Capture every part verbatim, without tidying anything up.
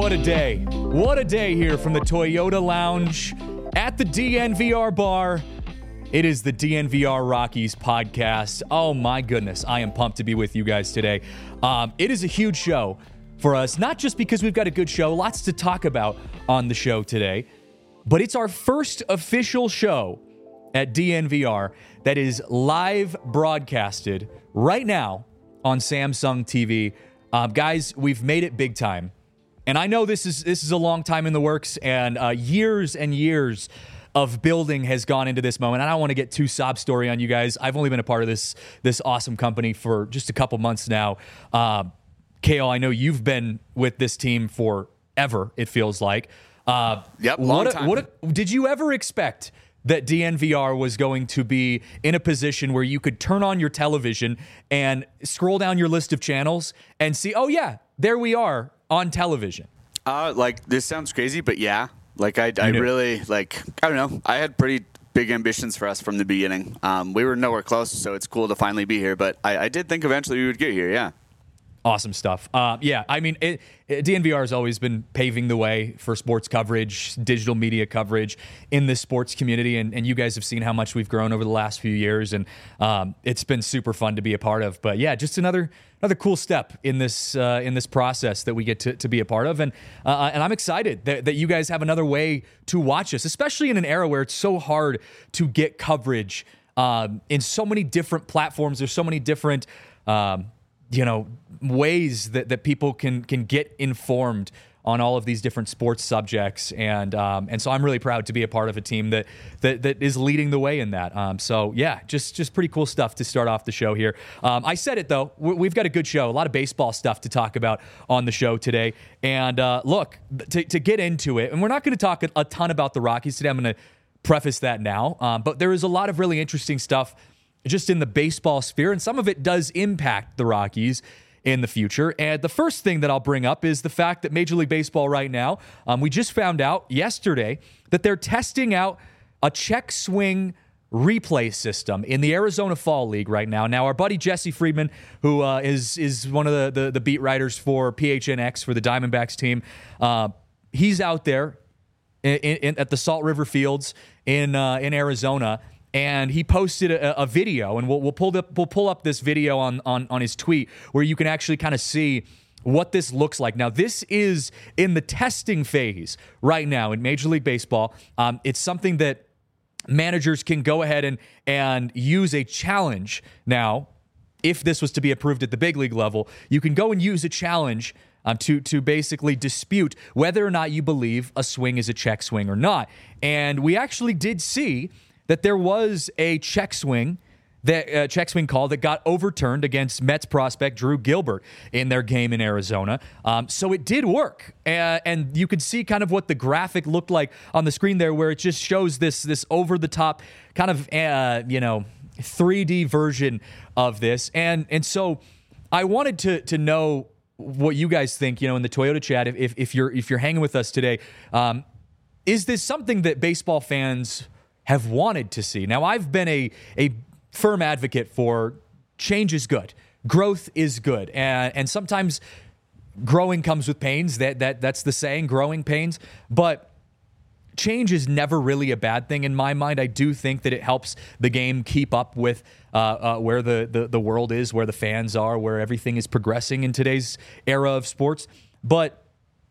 what a day. What a day here from the Toyota Lounge at the D N V R bar. It is the D N V R Rockies podcast. Oh my goodness, I am pumped to be with you guys today. Um, it is a huge show for us, not just because we've got a good show, lots to talk about on the show today, but it's our first official show at D N V R that is live broadcasted right now on Samsung T V. Um, guys, we've made it big time. And I know this is this is a long time in the works, and uh, years and years of building has gone into this moment. I don't want to get too sob story on you guys. I've only been a part of this this awesome company for just a couple months now. Uh, K O, I know you've been with this team forever, it feels like. Uh, yep, long what a, time. What a, did you ever expect that D N V R was going to be in a position where you could turn on your television and scroll down your list of channels and see, oh yeah, there we are on television? Uh, like, this sounds crazy, but yeah. Like, I, I really, like, I don't know. I had pretty big ambitions for us from the beginning. Um, we were nowhere close, so it's cool to finally be here. But I, I did think eventually we would get here, yeah. Awesome stuff. Uh, yeah, I mean, it, it, D N V R has always been paving the way for sports coverage, digital media coverage in this sports community, and, and you guys have seen how much we've grown over the last few years, and um, it's been super fun to be a part of. But yeah, just another another cool step in this uh, in this process that we get to, to be a part of, and uh, and I'm excited that, that you guys have another way to watch us, especially in an era where it's so hard to get coverage um, in so many different platforms. There's so many different Um, you know, ways that, that people can can get informed on all of these different sports subjects. And um, and so I'm really proud to be a part of a team that that, that is leading the way in that. Um, so, yeah, just just pretty cool stuff to start off the show here. Um, I said it, though. We've got a good show, a lot of baseball stuff to talk about on the show today. And uh, look, to, to get into it, and we're not going to talk a, a ton about the Rockies today. I'm going to preface that now. Um, but there is a lot of really interesting stuff just in the baseball sphere, and some of it does impact the Rockies in the future. And the first thing that I'll bring up is the fact that Major League Baseball right now, um, we just found out yesterday that they're testing out a check swing replay system in the Arizona Fall League right now. Now, our buddy Jesse Friedman, who uh, is is one of the, the, the beat writers for P H N X for the Diamondbacks team, uh, he's out there in, in, at the Salt River Fields in uh, in Arizona. And he posted a, a video, and we'll we'll pull up we'll pull up this video on on on his tweet where you can actually kind of see what this looks like. Now, this is in the testing phase right now in Major League Baseball. Um, it's something that managers can go ahead and and use a challenge now. If this was to be approved at the big league level, you can go and use a challenge um, to to basically dispute whether or not you believe a swing is a check swing or not. And we actually did see that there was a check swing, that uh, check swing call that got overturned against Mets prospect Drew Gilbert in their game in Arizona. Um, so it did work, uh, and you could see kind of what the graphic looked like on the screen there, where it just shows this this over the top kind of uh, you know three D version of this, and and so I wanted to to know what you guys think. You know, in the Toyota chat, if if you're if you're hanging with us today, um, is this something that baseball fans have wanted to see? Now, I've been a a firm advocate for change is good, growth is good, and and sometimes growing comes with pains. That that that's the saying, growing pains. But change is never really a bad thing in my mind. I do think that it helps the game keep up with uh, uh, where the, the the world is, where the fans are, where everything is progressing in today's era of sports. But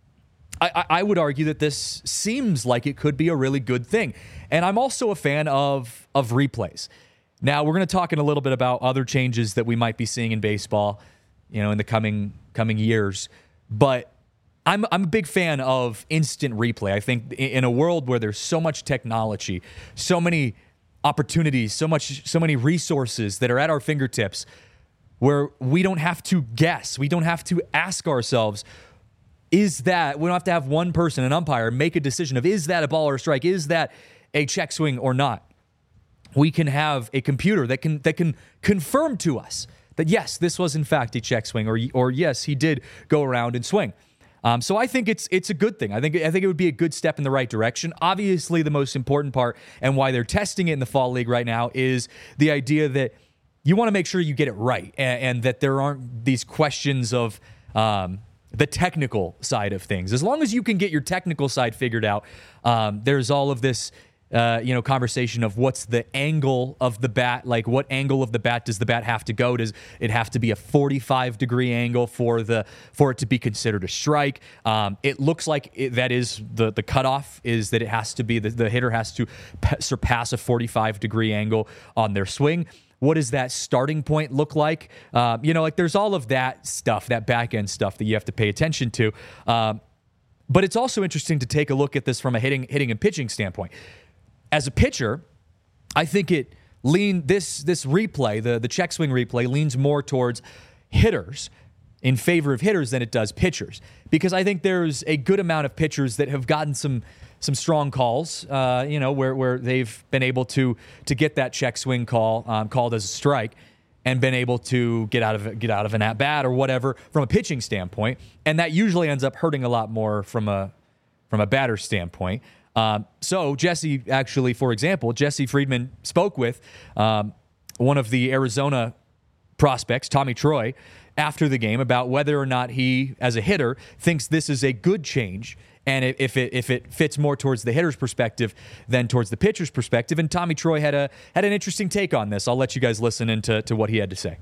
I, I would argue that this seems like it could be a really good thing. And I'm also a fan of, of replays. Now, we're going to talk in a little bit about other changes that we might be seeing in baseball, you know, in the coming coming years. But I'm I'm a big fan of instant replay. I think in a world where there's so much technology, so many opportunities, so much so many resources that are at our fingertips, where we don't have to guess, we don't have to ask ourselves, is that, we don't have to have one person, an umpire, make a decision of, is that a ball or a strike? Is that a check swing or not? We can have a computer that can that can confirm to us that, yes, this was in fact a check swing, or or yes, he did go around and swing. Um, so I think it's it's a good thing. I think I think it would be a good step in the right direction. Obviously, the most important part and why they're testing it in the fall league right now is the idea that you want to make sure you get it right, and, and that there aren't these questions of um, the technical side of things. As long as you can get your technical side figured out, um, there's all of this, uh, you know, conversation of what's the angle of the bat, like what angle of the bat does the bat have to go? Does it have to be a forty-five degree angle for the for it to be considered a strike? Um, it looks like it, that is the the cutoff is that it has to be the, the hitter has to p- surpass a forty-five degree angle on their swing. What does that starting point look like? Uh, you know, like there's all of that stuff, that back end stuff that you have to pay attention to. Um, but it's also interesting to take a look at this from a hitting, hitting and pitching standpoint. As a pitcher, I think it lean this this replay, the the check swing replay, leans more towards hitters in favor of hitters than it does pitchers, because I think there's a good amount of pitchers that have gotten some. some strong calls, uh, you know, where where they've been able to to get that check swing call um, called as a strike, and been able to get out of get out of an at bat or whatever from a pitching standpoint, and that usually ends up hurting a lot more from a from a batter standpoint. Um, so Jesse, actually, for example, Jesse Friedman spoke with um, one of the Arizona prospects, Tommy Troy, after the game about whether or not he, as a hitter, thinks this is a good change. And if it if it fits more towards the hitter's perspective than towards the pitcher's perspective, and Tommy Troy had a had an interesting take on this. I'll let you guys listen into to what he had to say.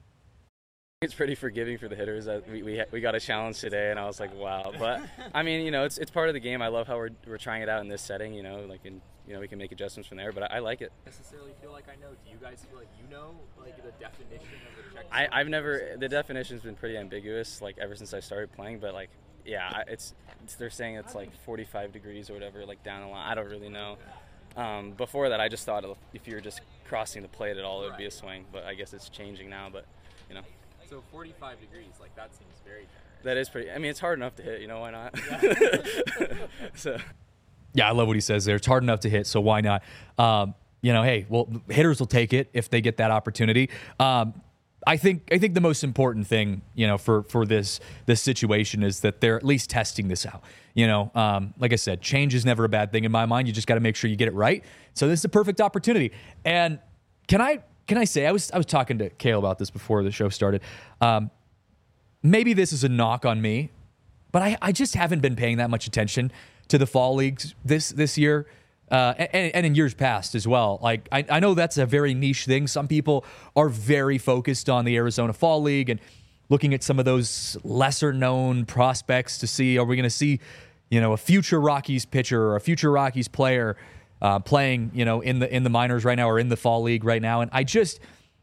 It's pretty forgiving for the hitters. That we we we got a challenge today, and I was like, wow. But I mean, you know, it's it's part of the game. I love how we're we're trying it out in this setting. You know, like in you know we can make adjustments from there. But I, I like it. Necessarily feel like I know. Do you guys feel like you know like the definition of the check? I I've never the definition's been pretty ambiguous like ever since I started playing. But like. Yeah, it's, it's they're saying it's like forty-five degrees or whatever, like down the line. I don't really know. Um, before that, I just thought if you were just crossing the plate at all, it would be a swing. But I guess it's changing now. But you know. So forty-five degrees, like that seems very generous. That is pretty. I mean, it's hard enough to hit. You know, why not? Yeah. so. Yeah, I love what he says there. It's hard enough to hit, so why not? Um, you know, hey, well, hitters will take it if they get that opportunity. Um, I think I think the most important thing, you know, for, for this this situation is that they're at least testing this out. You know, um, like I said, change is never a bad thing in my mind. You just got to make sure you get it right. So this is a perfect opportunity. And can I can I say I was I was talking to Kale about this before the show started. Um, maybe this is a knock on me, but I, I just haven't been paying that much attention to the fall leagues this this year. Uh, and, and in years past as well. Like I, I know that's a very niche thing. Some people are very focused on the Arizona Fall League and looking at some of those lesser known prospects to see, are we going to see, you know, a future Rockies pitcher or a future Rockies player uh, playing, you know, in the in the minors right now or in the Fall League right now. And I just,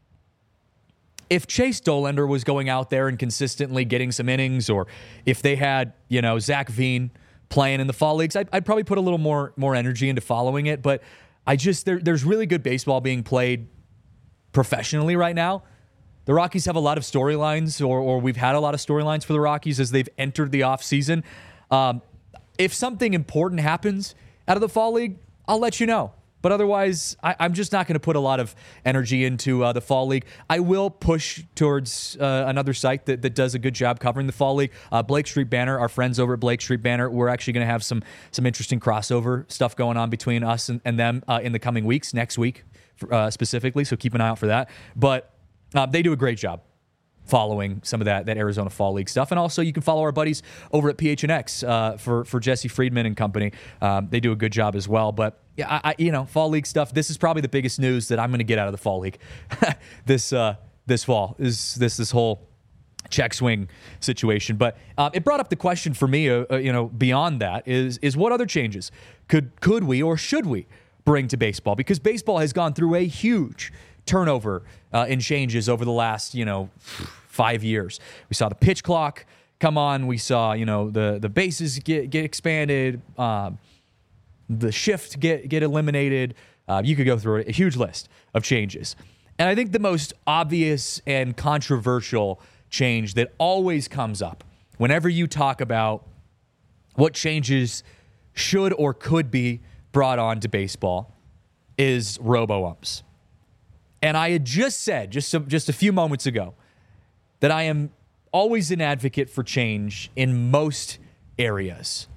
if Chase Dollander was going out there and consistently getting some innings, or if they had, you know, Zach Veen playing in the fall leagues, I'd, I'd probably put a little more more energy into following it. But I just there, there's really good baseball being played professionally right now. The Rockies have a lot of storylines, or or we've had a lot of storylines for the Rockies as they've entered the offseason. Um, if something important happens out of the fall league, I'll let you know. But otherwise, I, I'm just not going to put a lot of energy into uh, the Fall League. I will push towards uh, another site that, that does a good job covering the Fall League. Uh, Blake Street Banner, our friends over at Blake Street Banner, we're actually going to have some some interesting crossover stuff going on between us and, and them uh, in the coming weeks, next week uh, specifically. So keep an eye out for that. But uh, they do a great job following some of that that Arizona Fall League stuff. And also you can follow our buddies over at P H N X uh, for, for Jesse Friedman and company. Um, they do a good job as well. But yeah, I, I, you know, Fall League stuff, this is probably the biggest news that I'm going to get out of the Fall League this uh, this fall is this this whole check swing situation. But uh, it brought up the question for me, uh, uh, you know, beyond that is is what other changes could could we or should we bring to baseball? Because baseball has gone through a huge turnover uh, and changes over the last, you know, five years. We saw the pitch clock come on. We saw, you know, the the bases get get expanded, um, the shift get get eliminated. Uh, you could go through a huge list of changes. And I think the most obvious and controversial change that always comes up whenever you talk about what changes should or could be brought on to baseball is robo-umps. And I had just said, just a, just a few moments ago, that I am always an advocate for change in most areas.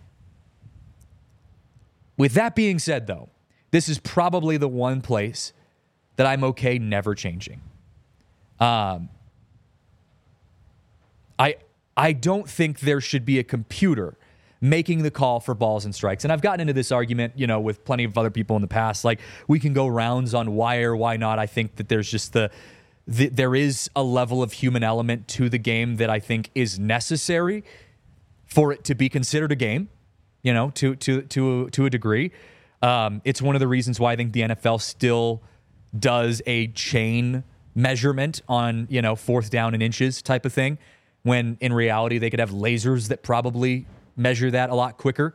With that being said, though, this is probably the one place that I'm okay never changing. Um, I I don't think there should be a computer making the call for balls and strikes. And I've gotten into this argument, you know, with plenty of other people in the past. Like, we can go rounds on why or why not. I think that there's just the, the there is a level of human element to the game that I think is necessary for it to be considered a game, you know, to to to to a degree. Um, it's one of the reasons why I think the N F L still does a chain measurement on, you know, fourth down and inches type of thing, when in reality they could have lasers that probably measure that a lot quicker.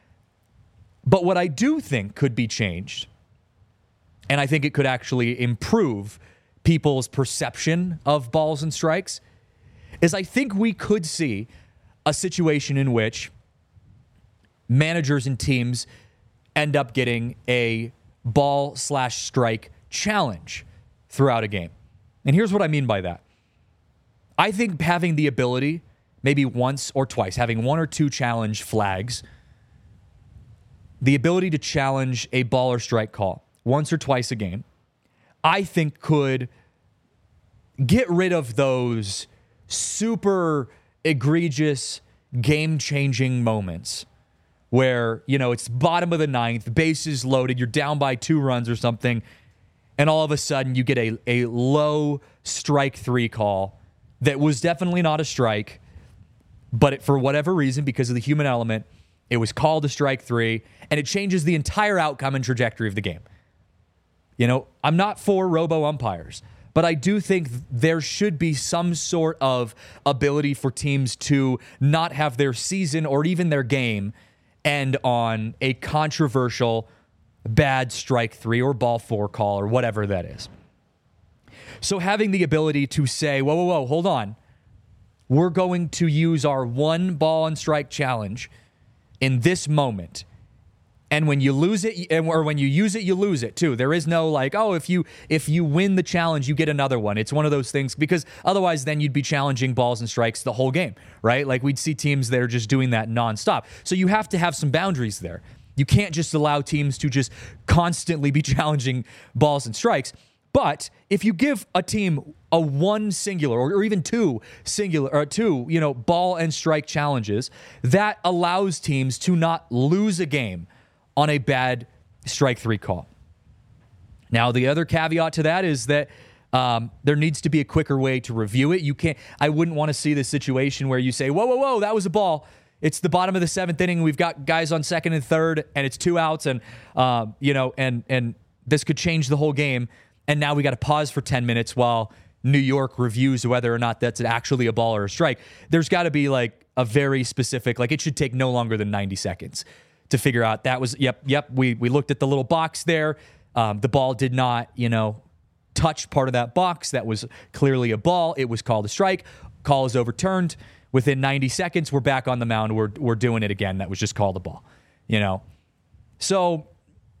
But what I do think could be changed, and I think it could actually improve people's perception of balls and strikes, is I think we could see a situation in which managers and teams end up getting a ball slash strike challenge throughout a game. And here's what I mean by that. I think having the ability, maybe once or twice, having one or two challenge flags, the ability to challenge a ball or strike call once or twice a game, I think could get rid of those super egregious, game-changing moments where, you know, it's bottom of the ninth, bases loaded, you're down by two runs or something, and all of a sudden you get a, a low strike three call that was definitely not a strike, but it, for whatever reason, because of the human element, it was called a strike three, and it changes the entire outcome and trajectory of the game. You know, I'm not for robo-umpires, but I do think there should be some sort of ability for teams to not have their season or even their game end on a controversial bad strike three or ball four call or whatever that is. So having the ability to say, whoa, whoa, whoa, hold on. We're going to use our one ball and strike challenge in this moment. And when you lose it, or when you use it, you lose it too. There is no like, oh, if you if you win the challenge, you get another one. It's one of those things, because otherwise then you'd be challenging balls and strikes the whole game, right? Like, we'd see teams that are just doing that nonstop. So you have to have some boundaries there. You can't just allow teams to just constantly be challenging balls and strikes. But if you give a team a one singular or, or even two singular or two, you know, ball and strike challenges, that allows teams to not lose a game on a bad strike three call. Now, the other caveat to that is that um, there needs to be a quicker way to review it. You can't, I wouldn't want to see this situation where you say, whoa, whoa, whoa, that was a ball. It's the bottom of the seventh inning. We've got guys on second and third, and it's two outs, and uh, you know, and and this could change the whole game. And now we got to pause for ten minutes while New York reviews whether or not that's actually a ball or a strike. There's got to be like a very specific, like, it should take no longer than ninety seconds to figure out that was, yep, yep, we we looked at the little box there. Um, the ball did not, you know, touch part of that box. That was clearly a ball. It was called a strike. Call is overturned. Within ninety seconds, we're back on the mound. We're we're doing it again. That was just called a ball, you know? So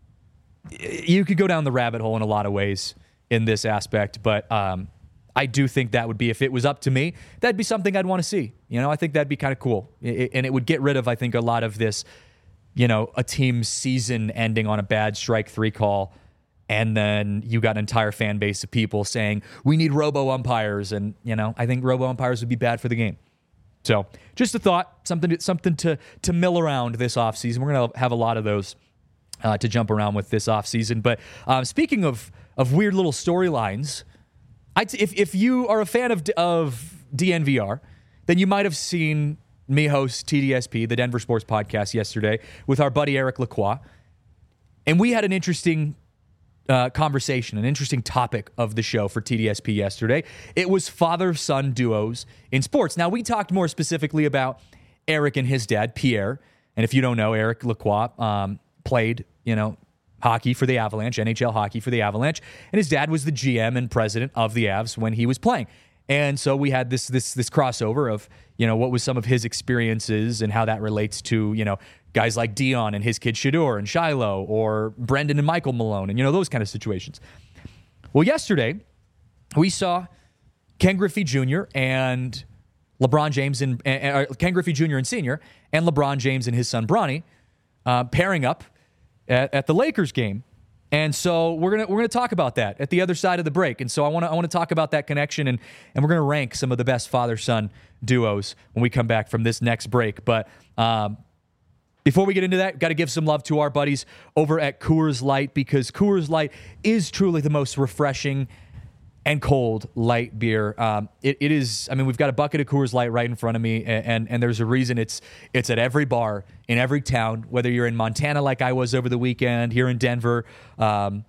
you could go down the rabbit hole in a lot of ways in this aspect, but um, I do think that would be, if it was up to me, that'd be something I'd want to see. You know, I think that'd be kind of cool. It, and it would get rid of, I think, a lot of this, you know, a team's season ending on a bad strike three call, and then you got an entire fan base of people saying, we need robo-umpires, and, you know, I think robo-umpires would be bad for the game. So just a thought, something something to to mill around this offseason. We're going to have a lot of those uh, to jump around with this offseason. But um, speaking of of weird little storylines, if if you are a fan of of D N V R, then you might have seen me host T D S P, the Denver Sports Podcast, yesterday with our buddy Eric Lacroix. And we had an interesting uh, conversation, an interesting topic of the show for T D S P yesterday. It was father-son duos in sports. Now, we talked more specifically about Eric and his dad, Pierre. And if you don't know, Eric Lacroix um, played, you know, hockey for the Avalanche, N H L hockey for the Avalanche. And his dad was the G M and president of the Avs when he was playing. And so we had this this this crossover of, you know, what was some of his experiences and how that relates to, you know, guys like Dion and his kid Shedeur and Shiloh, or Brendan and Michael Malone, and, you know, those kind of situations. Well, yesterday we saw Ken Griffey Junior and LeBron James and uh, Ken Griffey Junior and Senior and LeBron James and his son Bronny uh, pairing up at, at the Lakers game And so we're gonna we're gonna talk about that at the other side of the break. And so I want to I want to talk about that connection, and and we're gonna rank some of the best father-son duos when we come back from this next break. But um, before we get into that, got to give some love to our buddies over at Coors Light, because Coors Light is truly the most refreshing and cold light beer. Um, it, it is. I mean, we've got a bucket of Coors Light right in front of me, and, and and there's a reason it's it's at every bar in every town. Whether you're in Montana, like I was over the weekend, here in Denver, um,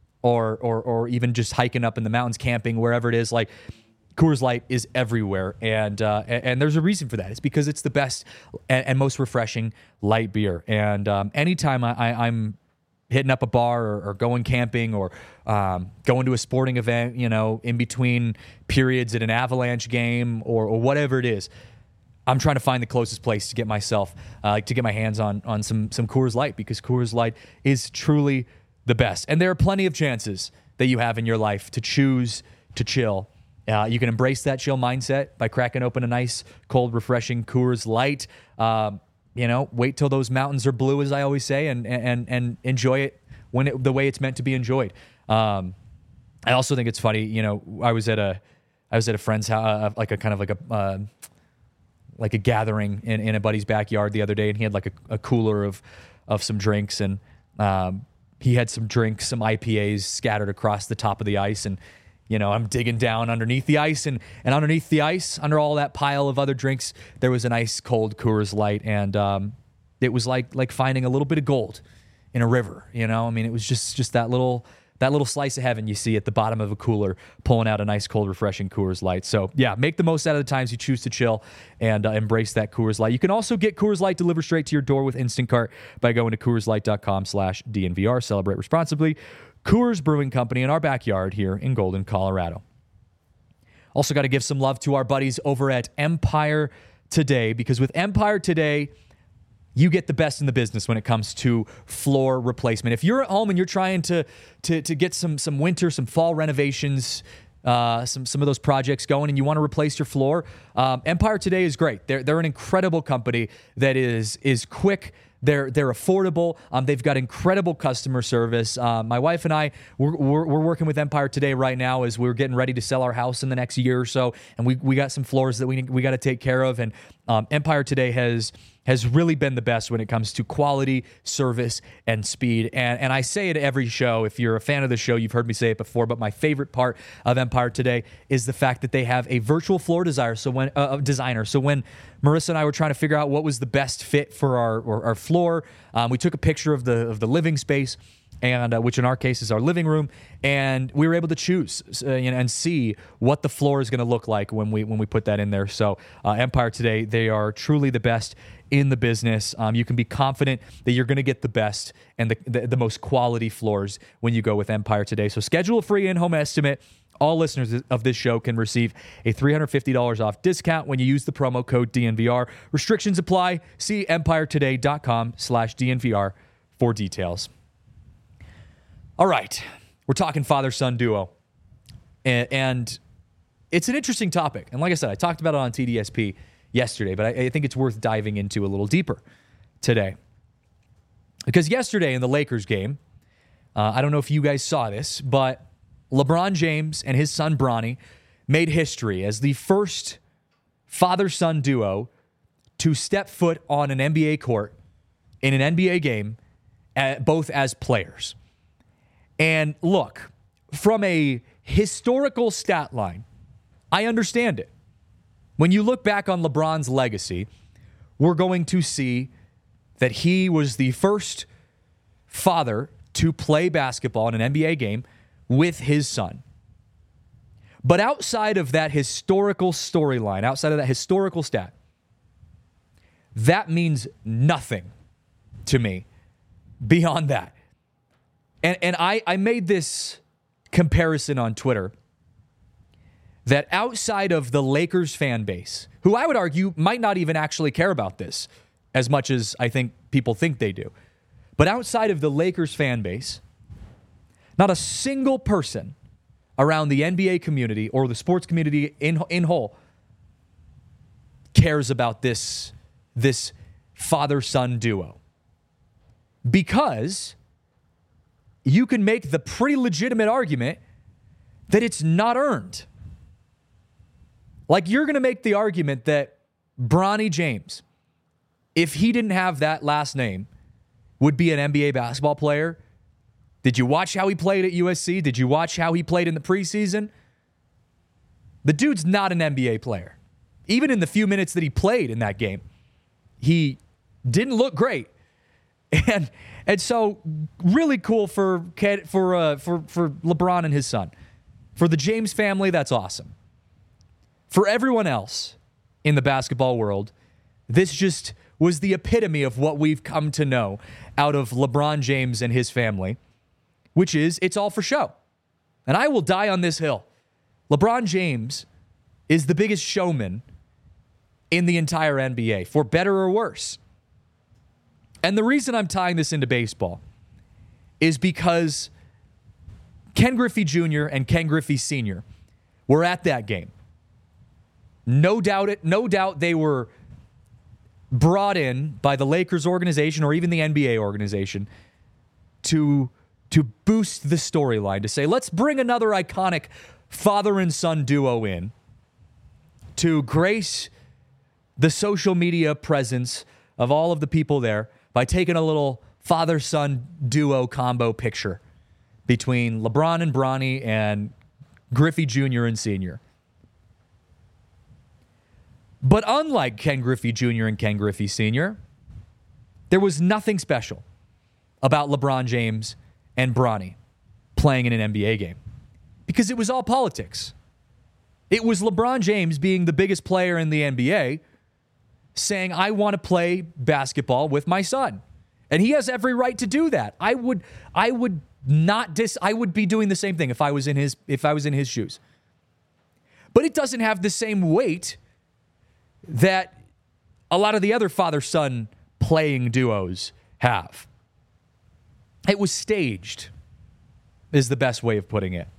or or or even just hiking up in the mountains, camping, wherever it is, like Coors Light is everywhere, and uh, and, and there's a reason for that. It's because it's the best and, and most refreshing light beer. And um, anytime I, I, I'm hitting up a bar or, or going camping or um, going to a sporting event, you know, in between periods at an Avalanche game or, or whatever it is, I'm trying to find the closest place to get myself, uh, like to get my hands on on some some Coors Light, because Coors Light is truly the best. And there are plenty of chances that you have in your life to choose to chill. Uh, you can embrace that chill mindset by cracking open a nice, cold, refreshing Coors Light. Um, You know, wait till those mountains are blue, as I always say, and and and enjoy it when it, the way it's meant to be enjoyed. Um, I also think it's funny. You know, I was at a I was at a friend's house, uh, like a kind of like a uh, like a gathering in, in a buddy's backyard the other day, and he had like a, a cooler of of some drinks, and um, he had some drinks, some I P As scattered across the top of the ice, and you know, I'm digging down underneath the ice, and, and underneath the ice, under all that pile of other drinks, there was an ice cold Coors Light, and um, it was like like finding a little bit of gold in a river. You know, I mean, it was just just that little that little slice of heaven you see at the bottom of a cooler, pulling out a nice cold, refreshing Coors Light. So yeah, make the most out of the times you choose to chill, and uh, embrace that Coors Light. You can also get Coors Light delivered straight to your door with Instant Cart by going to Coors Light dot com slash D N V R. Celebrate responsibly. Coors Brewing Company in our backyard here in Golden, Colorado. Also got to give some love to our buddies over at Empire Today, because with Empire Today, you get the best in the business when it comes to floor replacement. If you're at home and you're trying to to, to get some some winter, some fall renovations, uh, some some of those projects going, and you want to replace your floor, um, Empire Today is great. They're they're an incredible company that is is quick. They're they're affordable. Um, they've got incredible customer service. Uh, my wife and I, we're, we're we're working with Empire Today right now as we're getting ready to sell our house in the next year or so, and we we got some floors that we we got to take care of. And um, Empire Today has has really been the best when it comes to quality, service, and speed. And and I say it every show. If you're a fan of the show, you've heard me say it before. But my favorite part of Empire Today is the fact that they have a virtual floor designer. So when uh, designer. So when Marissa and I were trying to figure out what was the best fit for our our, our floor, um, we took a picture of the of the living space, and uh, which in our case is our living room, and we were able to choose uh, you know, and see what the floor is going to look like when we when we put that in there. So uh, Empire Today, they are truly the best in the business. Um, you can be confident that you're going to get the best and the, the the most quality floors when you go with Empire Today. So schedule a free in-home estimate. All listeners of this show can receive a three hundred fifty dollars off discount when you use the promo code D N V R. Restrictions apply. See empire today dot com slash D N V R for details. All right, we're talking father-son duo, and, and it's an interesting topic. And like I said, I talked about it on T D S P yesterday, but I, I think it's worth diving into a little deeper today. Because yesterday in the Lakers game, uh, I don't know if you guys saw this, but LeBron James and his son Bronny made history as the first father-son duo to step foot on an N B A court in an N B A game, uh, both as players. And look, from a historical stat line, I understand it. When you look back on LeBron's legacy, we're going to see that he was the first father to play basketball in an N B A game with his son. But outside of that historical storyline, outside of that historical stat, that means nothing to me beyond that. And and I, I made this comparison on Twitter that outside of the Lakers fan base, who I would argue might not even actually care about this as much as I think people think they do, but outside of the Lakers fan base, not a single person around the N B A community or the sports community in in whole cares about this, this father-son duo. Because you can make the pretty legitimate argument that it's not earned. Like, you're going to make the argument that Bronny James, if he didn't have that last name, would be an N B A basketball player. Did you watch how he played at U S C? Did you watch how he played in the preseason? The dude's not an N B A player. Even in the few minutes that he played in that game, he didn't look great. And and so really cool for for uh, for for LeBron and his son. For the James family, that's awesome. For everyone else in the basketball world, this just was the epitome of what we've come to know out of LeBron James and his family, which is it's all for show. And I will die on this hill. LeBron James is the biggest showman in the entire N B A, for better or worse. And the reason I'm tying this into baseball is because Ken Griffey Junior and Ken Griffey Senior were at that game. No doubt it, no doubt they were brought in by the Lakers organization or even the N B A organization to, to boost the storyline, to say, let's bring another iconic father and son duo in to grace the social media presence of all of the people there by taking a little father-son duo combo picture between LeBron and Bronny and Griffey Junior and Senior But unlike Ken Griffey Junior and Ken Griffey Senior, there was nothing special about LeBron James and Bronny playing in an N B A game because it was all politics. It was LeBron James, being the biggest player in the N B A, saying, I want to play basketball with my son. And he has every right to do that. I would I would not dis I would be doing the same thing if I was in his if I was in his shoes. But it doesn't have the same weight that a lot of the other father-son playing duos have. It was staged, is the best way of putting it.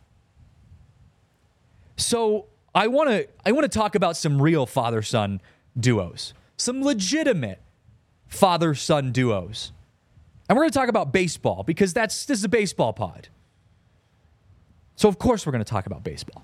So I want to I want to talk about some real father-son duos, some legitimate father-son duos. And we're going to talk about baseball because that's this is a baseball pod. So of course we're going to talk about baseball.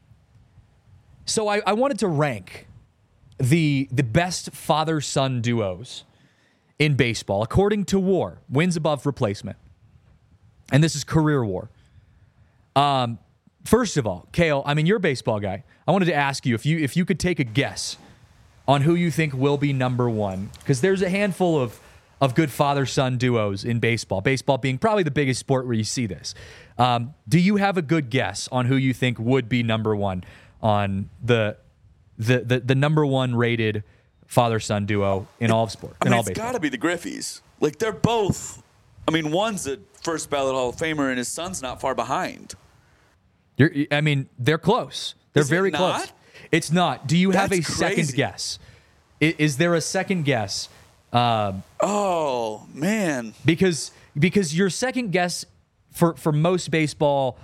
So I, I wanted to rank the the best father-son duos in baseball according to W A R, wins above replacement. And this is career W A R. Um, first of all, Kale, I mean, you're a baseball guy. I wanted to ask you if you if you could take a guess on who you think will be number one, because there's a handful of of good father-son duos in baseball. Baseball being probably the biggest sport where you see this. Um, do you have a good guess on who you think would be number one on the the the, the number one rated father-son duo in all of sport? I in mean, all it's baseball? got to be the Griffeys. Like, they're both. I mean, one's a first ballot Hall of Famer, and his son's not far behind. You're, I mean, they're close. They're Is it very not? close. It's not. Do you have a That's second crazy. guess? Is, is there a second guess? Um, Oh, man. because because your second guess for for most baseball,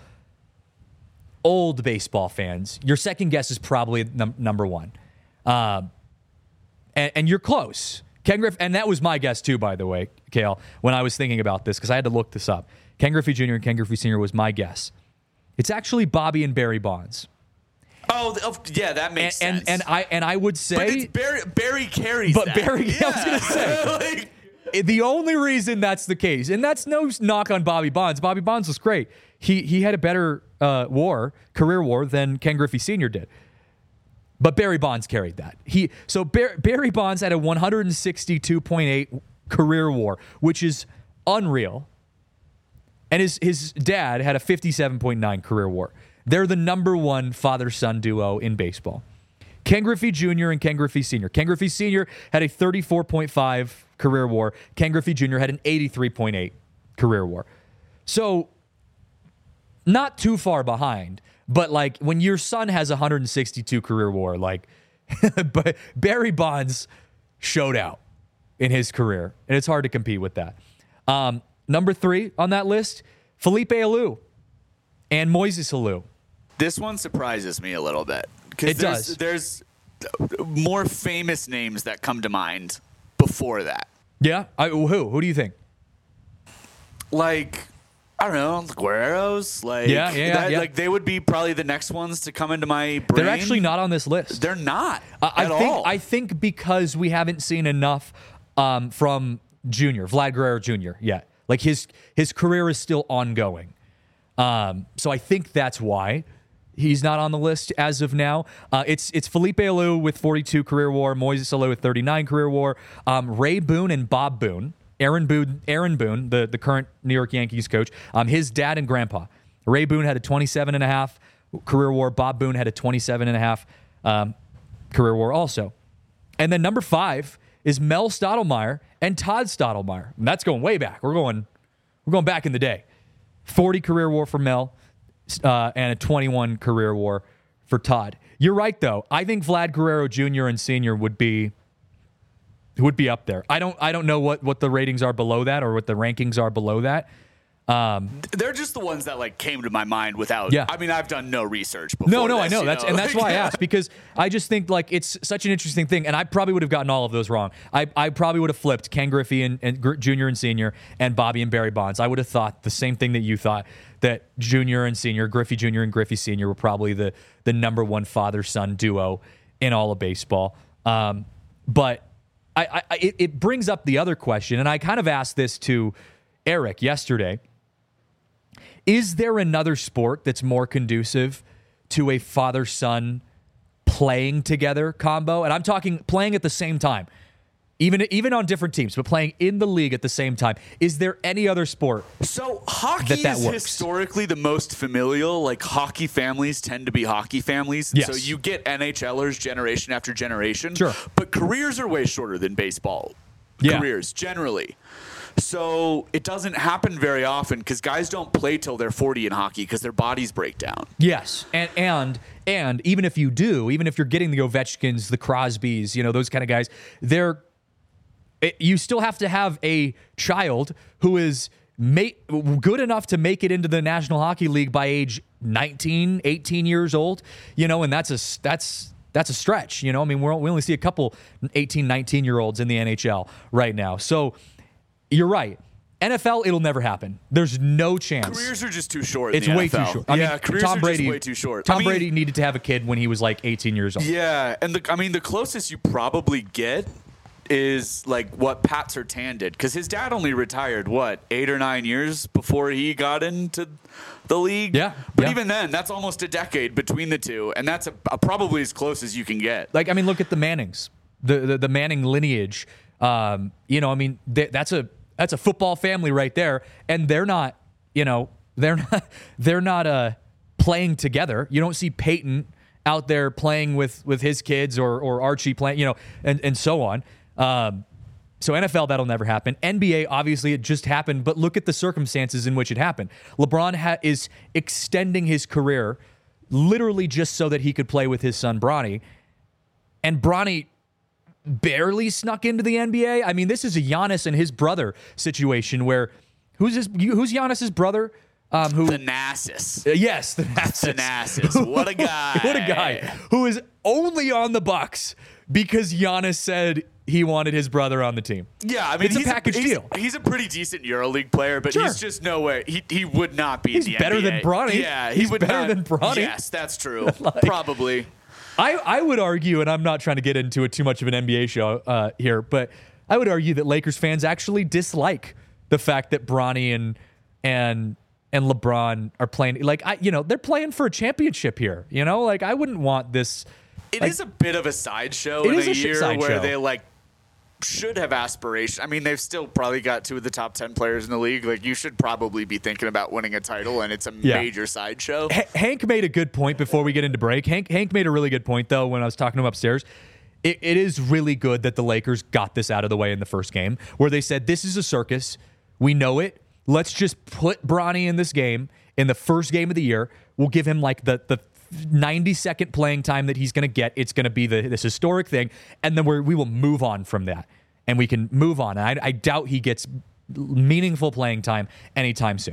old baseball fans, your second guess is probably num- number one, um, and, and you're close. Ken Griffey, and that was my guess too, by the way, Kale, when I was thinking about this, because I had to look this up. Ken Griffey Junior and Ken Griffey Senior was my guess. It's actually Bobby and Barry Bonds. Oh, th- oh, yeah, that makes And, sense. and and I and I would but say, it's Barry, Barry carries but that. Barry, yeah. I was gonna say, Like, the only reason that's the case, and that's no knock on Bobby Bonds. Bobby Bonds was great. He he had a better uh, W A R, career W A R, than Ken Griffey Senior did. But Barry Bonds carried that. He so Bar- Barry Bonds had a one sixty-two point eight career W A R, which is unreal. And his his dad had a fifty-seven point nine career W A R. They're the number one father-son duo in baseball. Ken Griffey Junior and Ken Griffey Senior Ken Griffey Senior had a thirty-four point five career W A R. Ken Griffey Junior had an eighty-three point eight career W A R. So, not too far behind, but like when your son has a one sixty-two career W A R, like but Barry Bonds showed out in his career, and it's hard to compete with that. Um, number three on that list, Felipe Alou and Moises Alou. this one surprises me a little bit. 'Cause It there's, does. There's more famous names that come to mind before that. Yeah? I, who? Who do you think? Like, I don't know, the Guerreros, like Yeah, yeah, that, yeah. like they would be probably the next ones to come into my brain. They're actually not on this list. They're not I, I at think all. I think because we haven't seen enough um, from Junior, Vlad Guerrero Junior yet. Like his his career is still ongoing. Um, so I think that's why he's not on the list as of now. Uh, it's it's Felipe Alou with forty-two career WAR, Moises Alou with thirty-nine career WAR, um, Ray Boone and Bob Boone. Aaron Boone, Aaron Boone, the, the current New York Yankees coach, um, his dad and grandpa. Ray Boone had a twenty-seven and a half career WAR. Bob Boone had a twenty-seven and a half um, career WAR also. And then number five is Mel Stottlemyre and Todd Stottlemyre. And that's going way back. We're going, we're going back in the day. forty career WAR for Mel uh, and a twenty-one career WAR for Todd. You're right, though. I think Vlad Guerrero Junior and Senior would be would be up there. I don't I don't know what, what the ratings are below that or what the rankings are below that. Um, They're just the ones that like came to my mind without. Yeah. I mean, I've done no research before. no, no, this, I know. you That's know? and that's why I asked, because I just think like it's such an interesting thing, and I probably would have gotten all of those wrong. I, I probably would have flipped Ken Griffey and, and Gr- Junior and Senior and Bobby and Barry Bonds. I would have thought the same thing that you thought, that Junior and Senior, Griffey Junior and Griffey Senior were probably the the number one father-son duo in all of baseball. Um, but I, I it, it brings up the other question, and I kind of asked this to Eric yesterday. Is there another sport that's more conducive to a father-son playing together combo? And I'm talking playing at the same time, even even on different teams, but playing in the league at the same time. Is there any other sport? So hockey that that is works? historically the most familial. Like hockey families tend to be hockey families. Yes. So you get NHLers generation after generation. Sure. But careers are way shorter than baseball Yeah. careers generally. So it doesn't happen very often because guys don't play till they're forty in hockey because their bodies break down. Yes, and and and even if you do, even if you're getting the Ovechkins, the Crosbys, you know, those kind of guys, they're it, you still have to have a child who is make, good enough to make it into the National Hockey League by age nineteen, eighteen years old, you know, and that's a that's that's a stretch, you know. I mean, we're, we only see a couple eighteen, nineteen year olds in the N H L right now. So you're right. N F L, it'll never happen. There's no chance. Careers are just too short. It's in the way N F L. too short. I yeah, mean, careers Tom are Brady, just way too short. Tom I mean, Brady needed to have a kid when he was like eighteen years old. Yeah, and the, I mean the closest you probably get is like what Pat Surtain did, because his dad only retired what eight or nine years before he got into the league. Yeah, but yeah. even then, that's almost a decade between the two, and that's a, a, probably as close as you can get. Like, I mean, look at the Mannings, the the, the Manning lineage. Um, you know, I mean, th- that's a that's a football family right there, and they're not, you know, they're not they're not uh playing together. You don't see Peyton out there playing with with his kids or or Archie playing, you know, and and so on. Um, so N F L, that'll never happen. N B A, obviously, it just happened, but look at the circumstances in which it happened. LeBron ha- is extending his career literally just so that he could play with his son Bronny, and Bronny barely snuck into the N B A. I mean, this is a Giannis and his brother situation where who's his, who's Giannis's brother? Um, who? Thanasis. Uh, yes, Thanasis. Thanasis. What a guy. What a guy who is only on the Bucks because Giannis said he wanted his brother on the team. Yeah, I mean, It's a he's package he's, deal. He's a pretty decent EuroLeague player, but Sure. he's just no way. He he would not be He's in the better N B A. than Bronny. Yeah, he He's would better not- than Bronny. Yes, that's true. Probably. I, I would argue, and I'm not trying to get into it too much of an N B A show uh, here, but I would argue that Lakers fans actually dislike the fact that Bronny and and and LeBron are playing. Like, I, you know, they're playing for a championship here. You know, like I wouldn't want this. It like, is a bit of a sideshow It in is a, a shit year sideshow. where they like should have aspirations. I mean, they've still probably got two of the top ten players in the league. Like, you should probably be thinking about winning a title, and it's a Yeah. major sideshow. H- Hank made a good point before we get into break. Hank Hank made a really good point though when I was talking to him upstairs. It, it is really good that the Lakers got this out of the way in the first game, where they said this is a circus. We know it. Let's just put Bronny in this game in the first game of the year. We'll give him like the the ninety second playing time that he's going to get. It's going to be the, this historic thing, and then we're, we will move on from that, and we can move on. And I, I doubt he gets meaningful playing time anytime soon,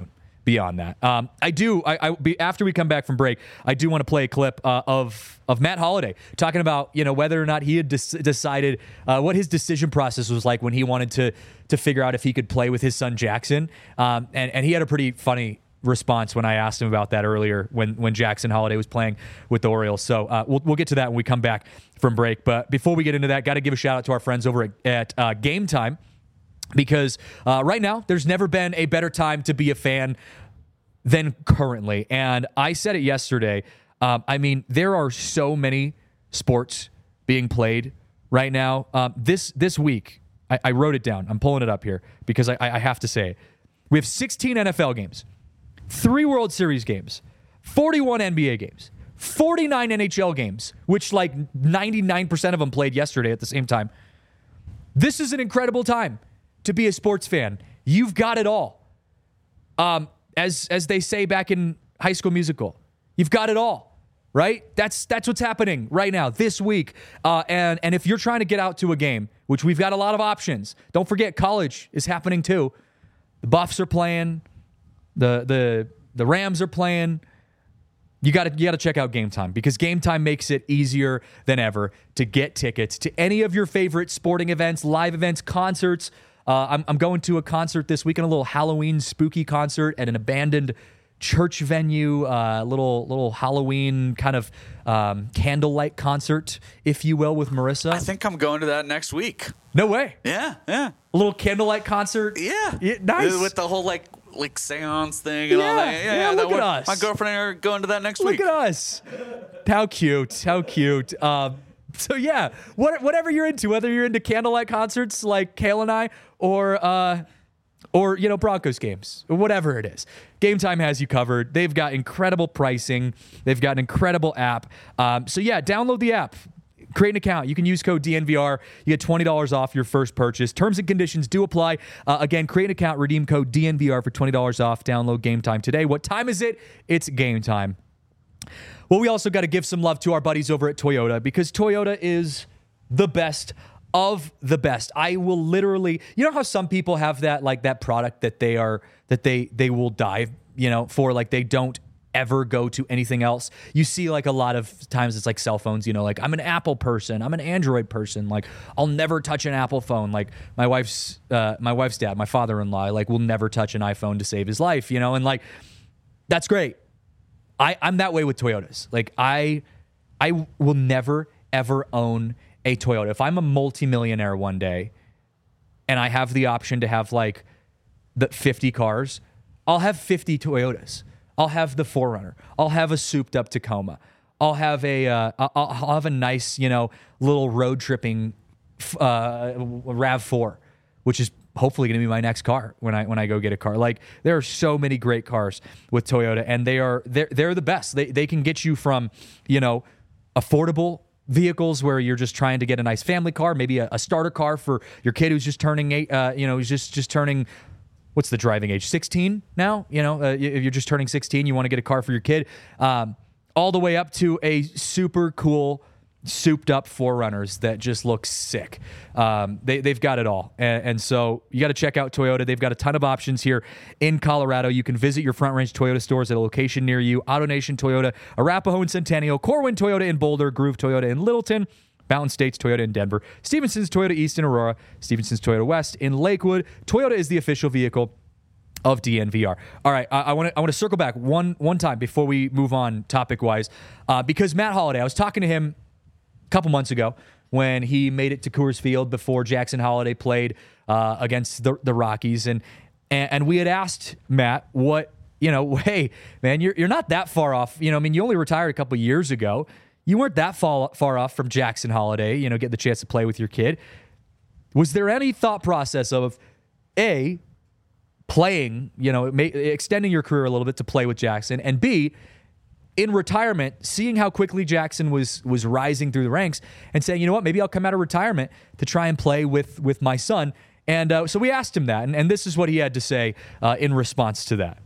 beyond that. Um, I do. I, I be, after we come back from break, I do want to play a clip uh, of of Matt Holliday talking about you know whether or not he had des- decided uh, what his decision process was like when he wanted to to figure out if he could play with his son Jackson. Um, and and he had a pretty funny response when I asked him about that earlier when when Jackson Holliday was playing with the Orioles. So uh, we'll we'll get to that when we come back from break. But before we get into that, got to give a shout out to our friends over at, at uh, Game Time. Because uh, right now, there's never been a better time to be a fan than currently. And I said it yesterday. Um, I mean, there are so many sports being played right now. Um, this this week, I, I wrote it down. I'm pulling it up here because I, I have to say it. We have sixteen N F L games, three World Series games, forty-one N B A games, forty-nine N H L games, which like ninety-nine percent of them played yesterday at the same time. This is an incredible time to be a sports fan. You've got it all. Um, as as they say back in High School Musical, you've got it all, right? That's that's what's happening right now, this week. Uh, and, and if you're trying to get out to a game, which we've got a lot of options, don't forget college is happening too. The Buffs are playing. The the the Rams are playing. You got to you got to check out Game Time because Game Time makes it easier than ever to get tickets to any of your favorite sporting events, live events, concerts. Uh, I'm, I'm going to a concert this weekend, a little Halloween spooky concert at an abandoned church venue, a uh, little little Halloween kind of um, candlelight concert, if you will, with Marissa. I think I'm going to that next week. No way. Yeah, yeah. A little candlelight concert. Yeah. yeah nice. With the whole like like seance thing and yeah, all that. Yeah, yeah, yeah. look that at one, us. My girlfriend and I are going to that next look week. Look at us. How cute. How cute. Um, so yeah, what, whatever you're into, whether you're into candlelight concerts like Kale and I, or uh, or you know Broncos games, or whatever it is, Game Time has you covered. They've got incredible pricing. They've got an incredible app. Um, so yeah, download the app. Create an account. You can use code D N V R. You get twenty dollars off your first purchase. Terms and conditions do apply. Uh, again, create an account. Redeem code D N V R for twenty dollars off. Download Game Time today. What time is it? It's Game Time. Well, we also got to give some love to our buddies over at Toyota because Toyota is the best of the best. I will literally, you know how some people have that like that product that they are that they they will die, you know, for like they don't ever go to anything else. You see like a lot of times it's like cell phones, you know, like I'm an Apple person, I'm an Android person, like I'll never touch an Apple phone. Like my wife's uh, my wife's dad, my father-in-law, like will never touch an iPhone to save his life, you know, and like that's great. I, I'm that way with Toyotas. Like I I will never ever own a Toyota. If I'm a multimillionaire one day and I have the option to have like the fifty cars, I'll have fifty Toyotas. I'll have the four runner. I'll have a souped up Tacoma. I'll have a uh, I'll, I'll have a nice, you know, little road tripping uh, RAV four, which is hopefully going to be my next car when I when I go get a car. Like there are so many great cars with Toyota, and they are they're they're the best. They they can get you from, you know, affordable vehicles where you're just trying to get a nice family car, maybe a, a starter car for your kid who's just turning eight, uh, you know, who's just just turning. What's the driving age? sixteen now? You know, uh, if you're just turning sixteen, you want to get a car for your kid. Um, all the way up to a super cool, souped up four runners that just look sick. Um, they, they've got it all. And, and so you got to check out Toyota. They've got a ton of options here in Colorado. You can visit your Front Range Toyota stores at a location near you. AutoNation Toyota, Arapahoe and Centennial, Corwin Toyota in Boulder, Groove Toyota in Littleton, Mountain States Toyota in Denver, Stevenson's Toyota East in Aurora, Stevenson's Toyota West in Lakewood. Toyota is the official vehicle of D N V R. All right, I want to I want to circle back one one time before we move on topic wise, uh, because Matt Holliday, I was talking to him a couple months ago when he made it to Coors Field before Jackson Holliday played uh, against the the Rockies, and, and and we had asked Matt what you know, hey man, you're you're not that far off. You know, I mean, you only retired a couple years ago. You weren't that far, far off from Jackson Holliday, you know, get the chance to play with your kid. Was there any thought process of, A, playing, you know, may, extending your career a little bit to play with Jackson, and B, in retirement, seeing how quickly Jackson was was rising through the ranks and saying, you know what, maybe I'll come out of retirement to try and play with, with my son. And uh, so we asked him that, and, and this is what he had to say uh, in response to that.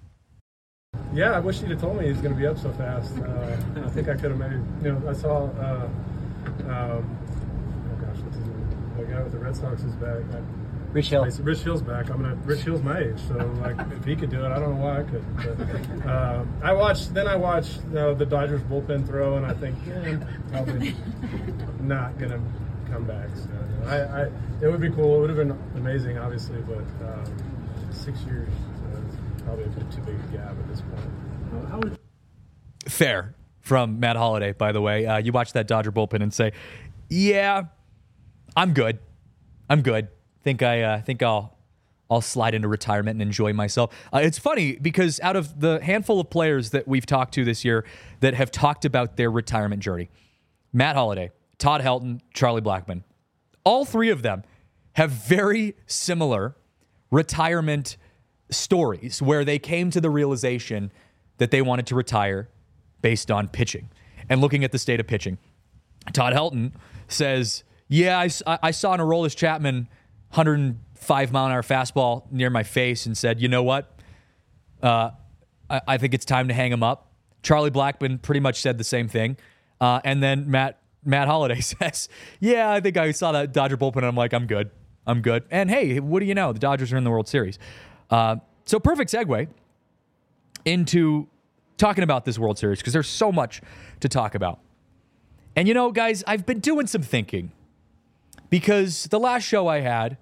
Yeah, I wish he'd have told me he was going to be up so fast. Uh, I think I could have maybe, you know, I saw, uh, um, oh gosh, what's his name? The guy with the Red Sox is back. I, Rich Hill. Rich Hill's back. I'm gonna. Rich Hill's my age, so like if he could do it, I don't know why I couldn't. But, uh, I watched. Then I watched you know, the Dodgers bullpen throw, and I think eh, probably not gonna come back. So I, I, it would be cool. It would have been amazing, obviously, but um, six years uh, is probably a bit too big a gap at this point. How would Fair from Matt Holliday, by the way. Uh, you watch that Dodger bullpen and say, "Yeah, I'm good. I'm good. Think I uh, think I'll I'll slide into retirement and enjoy myself." Uh, it's funny because out of the handful of players that we've talked to this year that have talked about their retirement journey, Matt Holliday, Todd Helton, Charlie Blackmon, all three of them have very similar retirement stories where they came to the realization that they wanted to retire based on pitching and looking at the state of pitching. Todd Helton says, yeah, I, I saw an Aroldis Chapman one hundred five mile an hour fastball near my face and said, you know what? Uh, I, I think it's time to hang him up. Charlie Blackmon pretty much said the same thing. Uh, and then Matt Matt Holliday says, yeah, I think I saw that Dodger bullpen and I'm like, I'm good. I'm good. And hey, what do you know? The Dodgers are in the World Series. Uh, so perfect segue into talking about this World Series because there's so much to talk about. And you know, guys, I've been doing some thinking because the last show I had,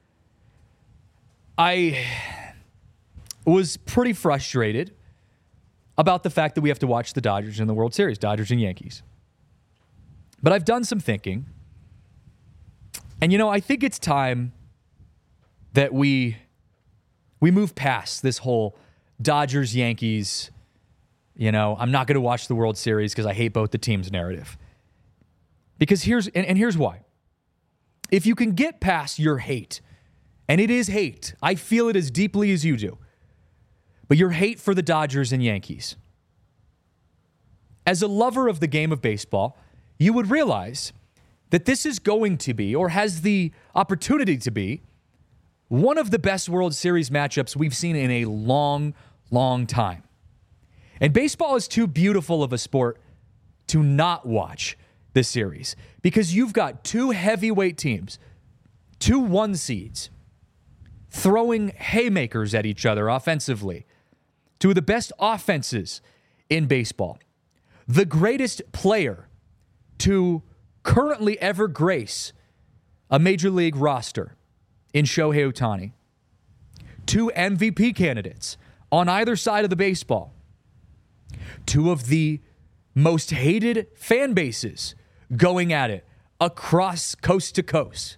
I was pretty frustrated about the fact that we have to watch the Dodgers in the World Series, Dodgers and Yankees. But I've done some thinking. And, you know, I think it's time that we we move past this whole Dodgers, Yankees, you know, I'm not going to watch the World Series because I hate both the teams narrative. Because here's, and, and here's why. If you can get past your hate, and it is hate, I feel it as deeply as you do, but your hate for the Dodgers and Yankees, as a lover of the game of baseball, you would realize that this is going to be, or has the opportunity to be, one of the best World Series matchups we've seen in a long, long time. And baseball is too beautiful of a sport to not watch this series because you've got two heavyweight teams, two one seeds, throwing haymakers at each other offensively. Two of the best offenses in baseball. The greatest player to currently ever grace a major league roster in Shohei Ohtani. Two M V P candidates on either side of the baseball. Two of the most hated fan bases going at it across coast to coast.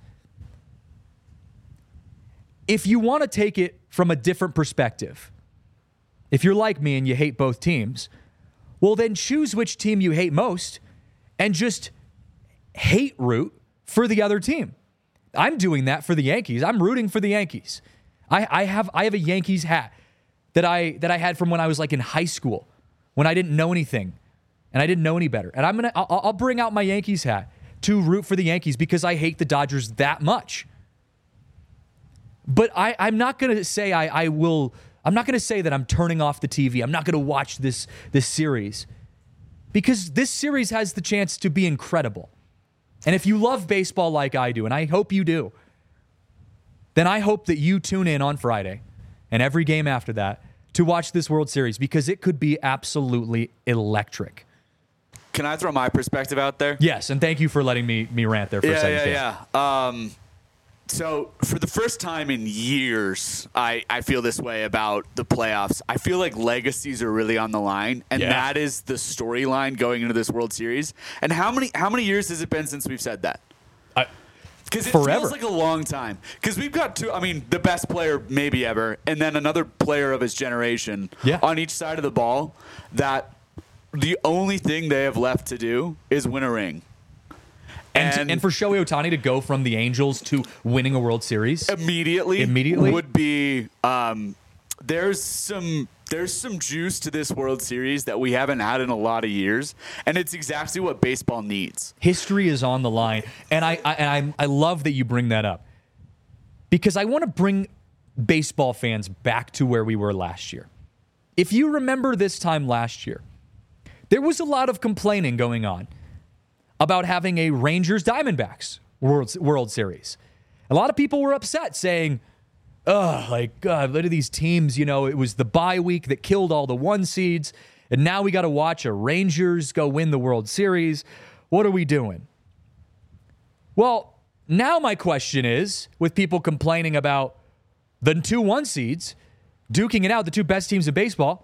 If you want to take it from a different perspective, if you're like me and you hate both teams, well then choose which team you hate most and just hate root for the other team. I'm doing that for the Yankees. I'm rooting for the Yankees. I, I have I have a Yankees hat that I that I had from when I was like in high school, when I didn't know anything and I didn't know any better. And I'm gonna I'll, I'll bring out my Yankees hat to root for the Yankees because I hate the Dodgers that much. But I, I'm not gonna say I, I will. I'm not gonna say that I'm turning off the T V. I'm not gonna watch this this series because this series has the chance to be incredible. And if you love baseball like I do, and I hope you do, then I hope that you tune in on Friday and every game after that to watch this World Series because it could be absolutely electric. Can I throw my perspective out there? Yes, and thank you for letting me me rant there for yeah, a second. Yeah, Dave. yeah, yeah. Um, so for the first time in years, I, I feel this way about the playoffs. I feel like legacies are really on the line, and Yeah. that is the storyline going into this World Series. And how many how many years has it been since we've said that? I, Because it Forever. feels like a long time. Because we've got two, I mean, the best player maybe ever, and then another player of his generation Yeah. on each side of the ball that the only thing they have left to do is win a ring. and, And- and for Shohei Ohtani to go from the Angels to winning a World Series. Immediately, Immediately? would be um, there's some there's some juice to this World Series that we haven't had in a lot of years, and it's exactly what baseball needs. History is on the line, and I, I and I I love that you bring that up because I want to bring baseball fans back to where we were last year. If you remember this time last year, there was a lot of complaining going on about having a Rangers Diamondbacks World World Series. A lot of people were upset saying, ugh, like, God, look at these teams. You know, it was the bye week that killed all the one seeds. And now we got to watch a Rangers go win the World Series. What are we doing? Well, now my question is, with people complaining about the two one seeds duking it out, the two best teams in baseball,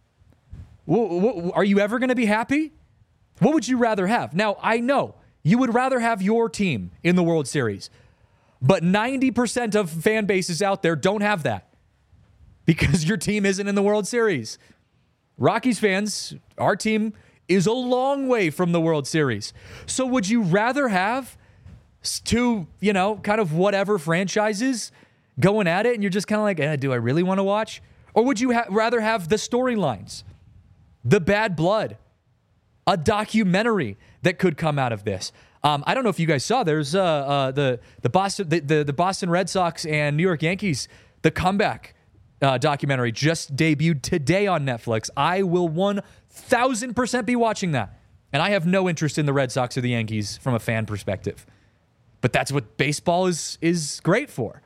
w- w- are you ever going to be happy? What would you rather have? Now, I know you would rather have your team in the World Series, but ninety percent of fan bases out there don't have that because your team isn't in the World Series. Rockies fans, our team is a long way from the World Series. So would you rather have two, you know, kind of whatever franchises going at it and you're just kind of like, eh, do I really want to watch? Or would you ha- rather have the storylines, the bad blood, a documentary that could come out of this? Um, I don't know if you guys saw, there's uh, uh, the the Boston the, the, the Boston Red Sox and New York Yankees, the comeback uh, documentary just debuted today on Netflix. I will one thousand percent be watching that. And I have no interest in the Red Sox or the Yankees from a fan perspective. But that's what baseball is is great for.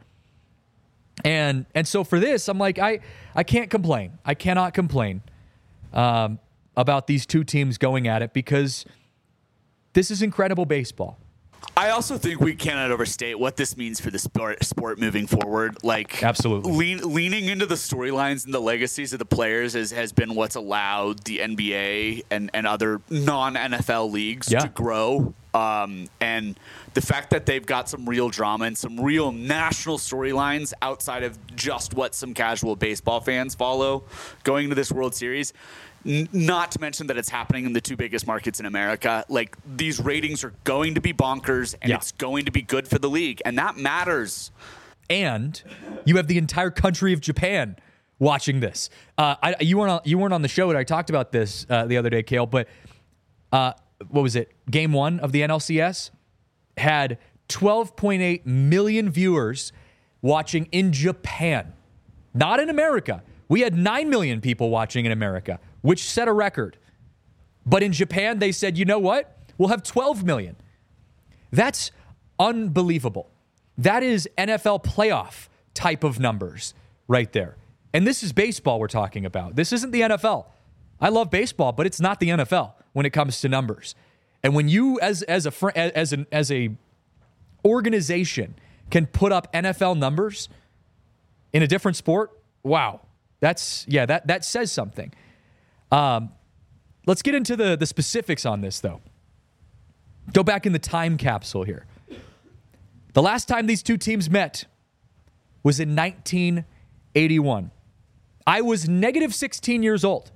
And and so for this, I'm like, I, I can't complain. I cannot complain um, about these two teams going at it because this is incredible baseball. I also think we cannot overstate what this means for the sport, sport moving forward. Like, absolutely, lean, leaning into the storylines and the legacies of the players is, has been what's allowed the N B A and, and other non-N F L leagues yeah. to grow. Um, and the fact that they've got some real drama and some real national storylines outside of just what some casual baseball fans follow going into this World Series. Not to mention that it's happening in the two biggest markets in America. Like, these ratings are going to be bonkers, and yeah. it's going to be good for the league, and that matters. And you have the entire country of Japan watching this. Uh, I, you weren't on, you weren't on the show, and I talked about this uh, the other day, Kale. But uh, what was it? Game one of the N L C S had twelve point eight million viewers watching in Japan, not in America. We had nine million people watching in America, which set a record. But in Japan, they said, you know what? We'll have twelve million. That's unbelievable. That is N F L playoff type of numbers right there. And this is baseball we're talking about. This isn't the N F L. I love baseball, but it's not the N F L when it comes to numbers. And when you, as as a fr- as an as a organization, can put up N F L numbers in a different sport, wow. That's, yeah, that, that says something. Um, let's get into the, the specifics on this, though. Go back in the time capsule here. The last time these two teams met was in nineteen eighty-one. I was negative sixteen years old,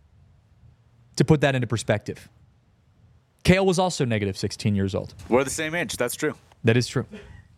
to put that into perspective. Kale was also negative sixteen years old. We're the same age. That's true. That is true.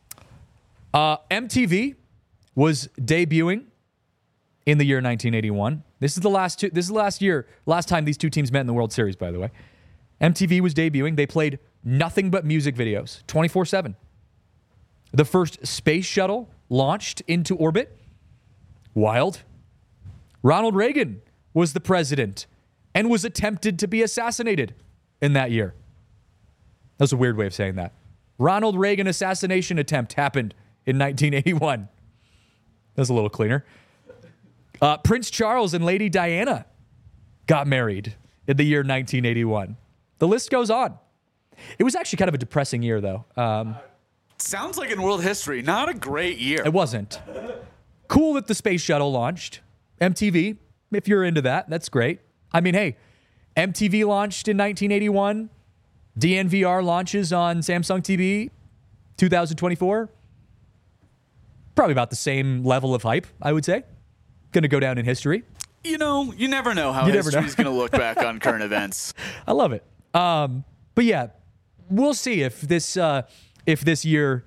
Uh, M T V was debuting in the year nineteen eighty-one. This is the last two, this is the last year, last time these two teams met in the World Series, by the way. M T V was debuting. They played nothing but music videos, twenty-four seven. The first space shuttle launched into orbit. Wild. Ronald Reagan was the president and was attempted to be assassinated in that year. That's a weird way of saying that. Ronald Reagan assassination attempt happened in nineteen eighty-one. That's a little cleaner. Uh, Prince Charles and Lady Diana got married in the year nineteen eighty-one. The list goes on. It was actually kind of a depressing year, though. Um, Sounds like in world history, not a great year. It wasn't. Cool that the space shuttle launched. M T V, if you're into that, that's great. I mean, hey, M T V launched in nineteen eighty-one. D N V R launches on Samsung T V two thousand twenty-four. Probably about the same level of hype, I would say. Going to go down in history. You know, you never know how history's going to look back on current events. I love it. Um, but yeah, we'll see if this uh, if this year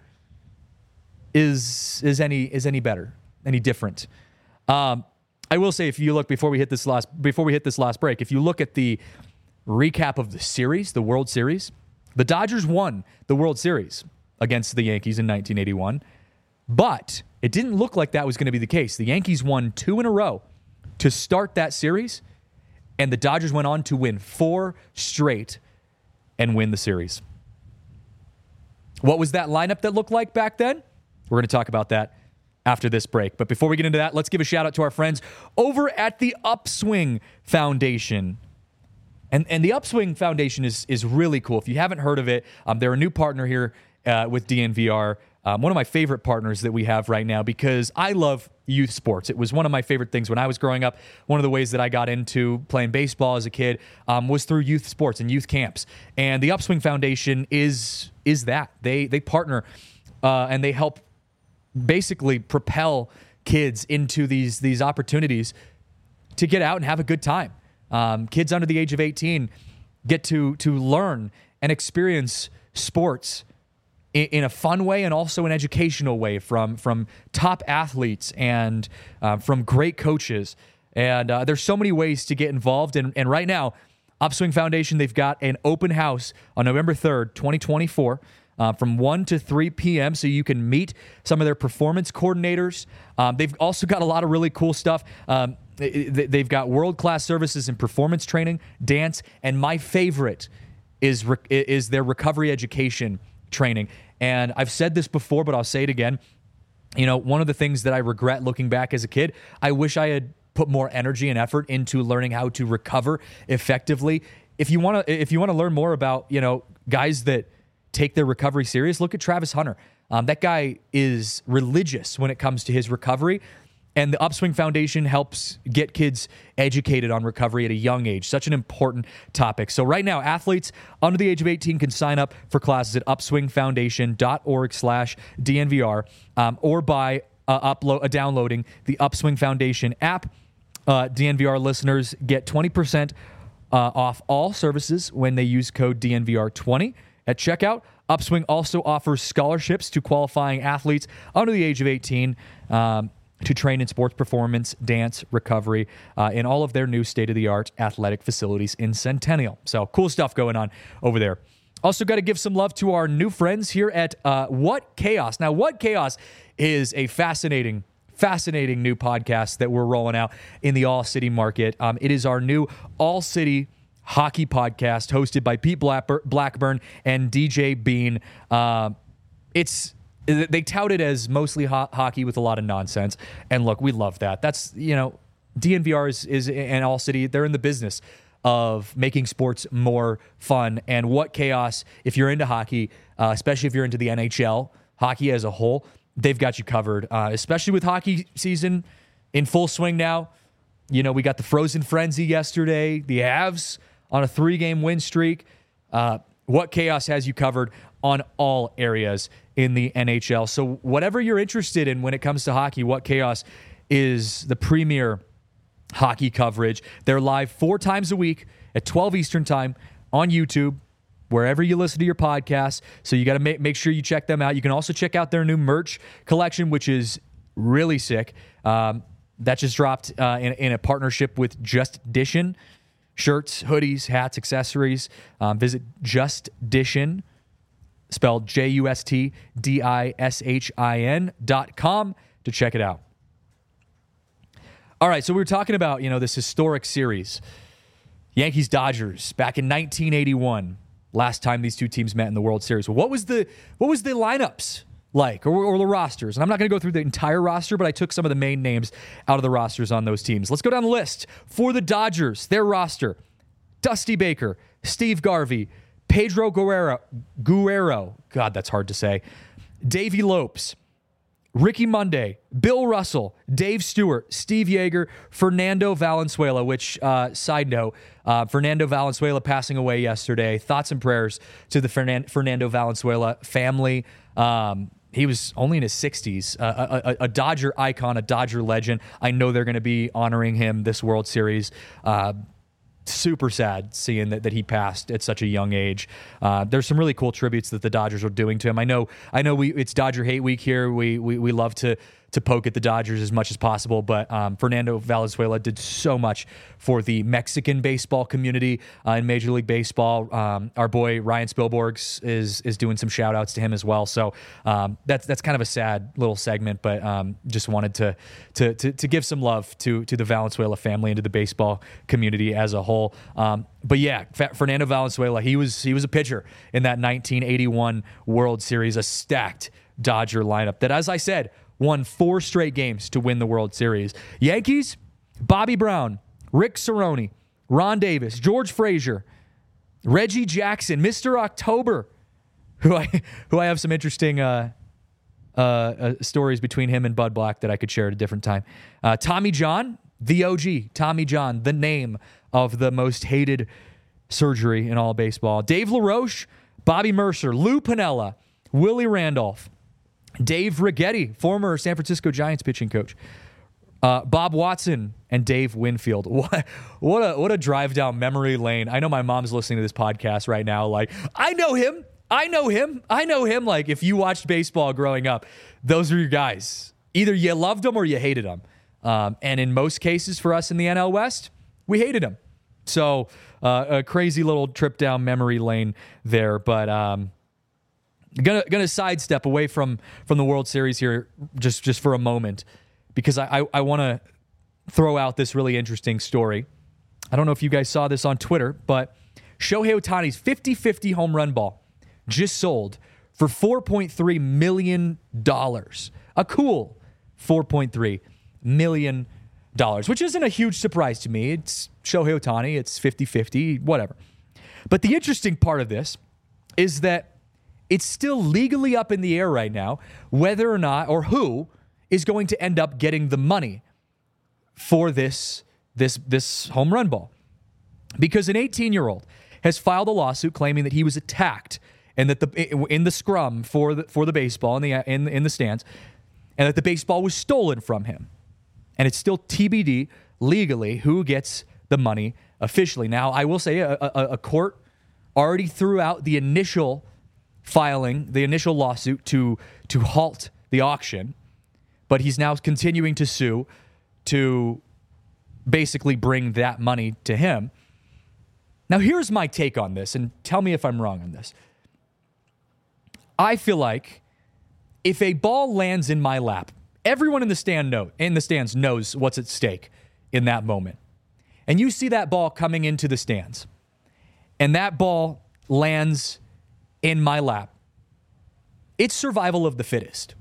is is any is any better, any different. Um, I will say, if you look before we hit this last before we hit this last break, if you look at the recap of the series, the World Series, the Dodgers won the World Series against the Yankees in nineteen eighty-one. But it didn't look like that was going to be the case. The Yankees won two in a row to start that series, and the Dodgers went on to win four straight and win the series. What was that lineup that looked like back then? We're going to talk about that after this break. But before we get into that, let's give a shout out to our friends over at the Upswing Foundation. And and the Upswing Foundation is is really cool. If you haven't heard of it, um, they're a new partner here uh, with D N V R. Um, one of my favorite partners that we have right now because I love youth sports. It was one of my favorite things when I was growing up. One of the ways that I got into playing baseball as a kid um, was through youth sports and youth camps. And the Upswing Foundation is is that. They they partner uh, and they help basically propel kids into these these opportunities to get out and have a good time. Um, kids under the age of eighteen get to to learn and experience sports in, in a fun way and also an educational way from from top athletes and uh, from great coaches. And uh, there's so many ways to get involved. And, and right now, Upswing Foundation, they've got an open house on November third, twenty twenty-four. Uh, from one to three p.m. so you can meet some of their performance coordinators. Um, they've also got a lot of really cool stuff. Um, they, they've got world-class services in performance training, dance, and my favorite is re- is their recovery education training. And I've said this before, but I'll say it again. You know, one of the things that I regret looking back as a kid, I wish I had put more energy and effort into learning how to recover effectively. If you want to, if you want to learn more about, you know, guys that take their recovery serious, look at Travis Hunter. Um, that guy is religious when it comes to his recovery, and the Upswing Foundation helps get kids educated on recovery at a young age. Such an important topic. So right now, athletes under the age of eighteen can sign up for classes at upswingfoundation.org slash DNVR um, or by uh, upload, uh, downloading the Upswing Foundation app. Uh, D N V R listeners get twenty percent uh, off all services when they use code D N V R twenty. At checkout, Upswing also offers scholarships to qualifying athletes under the age of eighteen um, to train in sports performance, dance, recovery, uh, in all of their new state-of-the-art athletic facilities in Centennial. So cool stuff going on over there. Also got to give some love to our new friends here at uh, What Chaos. Now, What Chaos is a fascinating Fascinating new podcast that we're rolling out in the All-City market. Um, it is our new All-City hockey podcast hosted by Pete Blackburn and D J Bean. Uh, it's they tout it as mostly ho- hockey with a lot of nonsense. And look, we love that. That's, you know, D N V R is, is and All City, they're in the business of making sports more fun. And What Chaos, if you're into hockey, uh, especially if you're into the N H L, hockey as a whole, they've got you covered, uh, especially with hockey season in full swing now. You know, we got the Frozen Frenzy yesterday, the Avs on a three-game win streak. Uh, What Chaos has you covered on all areas in the N H L. So whatever you're interested in when it comes to hockey, What Chaos is the premier hockey coverage. They're live four times a week at twelve Eastern time on YouTube, wherever you listen to your podcasts. So you got to make, make sure you check them out. You can also check out their new merch collection, which is really sick. Um, that just dropped uh, in, in a partnership with Just Dishin. Shirts, hoodies, hats, accessories. Um, visit Just Dishin, spelled J U S T D I S H I N dot com to check it out. All right, so we were talking about, you know, this historic series. Yankees-Dodgers back in nineteen eighty-one, last time these two teams met in the World Series. What was the what was the lineups like, or, or the rosters? And I'm not going to go through the entire roster, but I took some of the main names out of the rosters on those teams. Let's go down the list. For the Dodgers, their roster: Dusty Baker, Steve Garvey, Pedro Guerrero, Guerrero, God, that's hard to say, Davey Lopes, Ricky Monday, Bill Russell, Dave Stewart, Steve Yeager, Fernando Valenzuela, which, uh, side note, uh, Fernando Valenzuela passing away yesterday. Thoughts and prayers to the Fernan- Fernando Valenzuela family. Um, he was only in his sixties, uh, a, a, a Dodger icon, a Dodger legend. I know they're going to be honoring him this World Series. Uh, super sad seeing that, that he passed at such a young age. Uh, there's some really cool tributes that the Dodgers are doing to him. I know, I know we, it's Dodger Hate Week here. We, we, we love to, to poke at the Dodgers as much as possible, but um, Fernando Valenzuela did so much for the Mexican baseball community uh, in Major League Baseball. Um, our boy Ryan Spilborghs is is doing some shout outs to him as well. So um, that's that's kind of a sad little segment, but um, just wanted to, to to to give some love to to the Valenzuela family and to the baseball community as a whole. Um, but yeah, Fernando Valenzuela, he was he was a pitcher in that nineteen eighty-one World Series, a stacked Dodger lineup that, as I said, won four straight games to win the World Series. Yankees, Bobby Brown, Rick Cerrone, Ron Davis, George Frazier, Reggie Jackson, Mister October, who I who I have some interesting uh, uh, uh, stories between him and Bud Black that I could share at a different time. Uh, Tommy John, the O G, Tommy John, the name of the most hated surgery in all of baseball. Dave LaRoche, Bobby Mercer, Lou Piniella, Willie Randolph, Dave Righetti, former San Francisco Giants pitching coach, uh, Bob Watson, and Dave Winfield. What, what a what a drive down memory lane. I know my mom's listening to this podcast right now. Like, I know him. I know him. I know him. Like, if you watched baseball growing up, those are your guys. Either you loved them or you hated them. Um, and in most cases for us in the N L West, we hated them. So uh, a crazy little trip down memory lane there. But um, Gonna gonna sidestep away from from the World Series here just just for a moment, because I I, I want to throw out this really interesting story. I don't know if you guys saw this on Twitter, but Shohei Ohtani's fifty-fifty home run ball just sold for four point three million dollars. A cool four point three million dollars, which isn't a huge surprise to me. It's Shohei Ohtani. It's fifty-fifty, whatever. But the interesting part of this is that it's still legally up in the air right now whether or not, or who is going to end up getting the money for this, this, this home run ball. Because an eighteen-year-old has filed a lawsuit claiming that he was attacked and that the in the scrum for the for the baseball in the in, in the stands, and that the baseball was stolen from him. And it's still T B D legally who gets the money officially. Now, I will say a, a, a court already threw out the initial filing, the initial lawsuit to to halt the auction, but he's now continuing to sue to basically bring that money to him. Now, here's my take on this, and tell me if I'm wrong on this. I feel like if a ball lands in my lap, everyone in the stand know, in the stands knows what's at stake in that moment. And you see that ball coming into the stands, and that ball lands in my lap. It's survival of the fittest.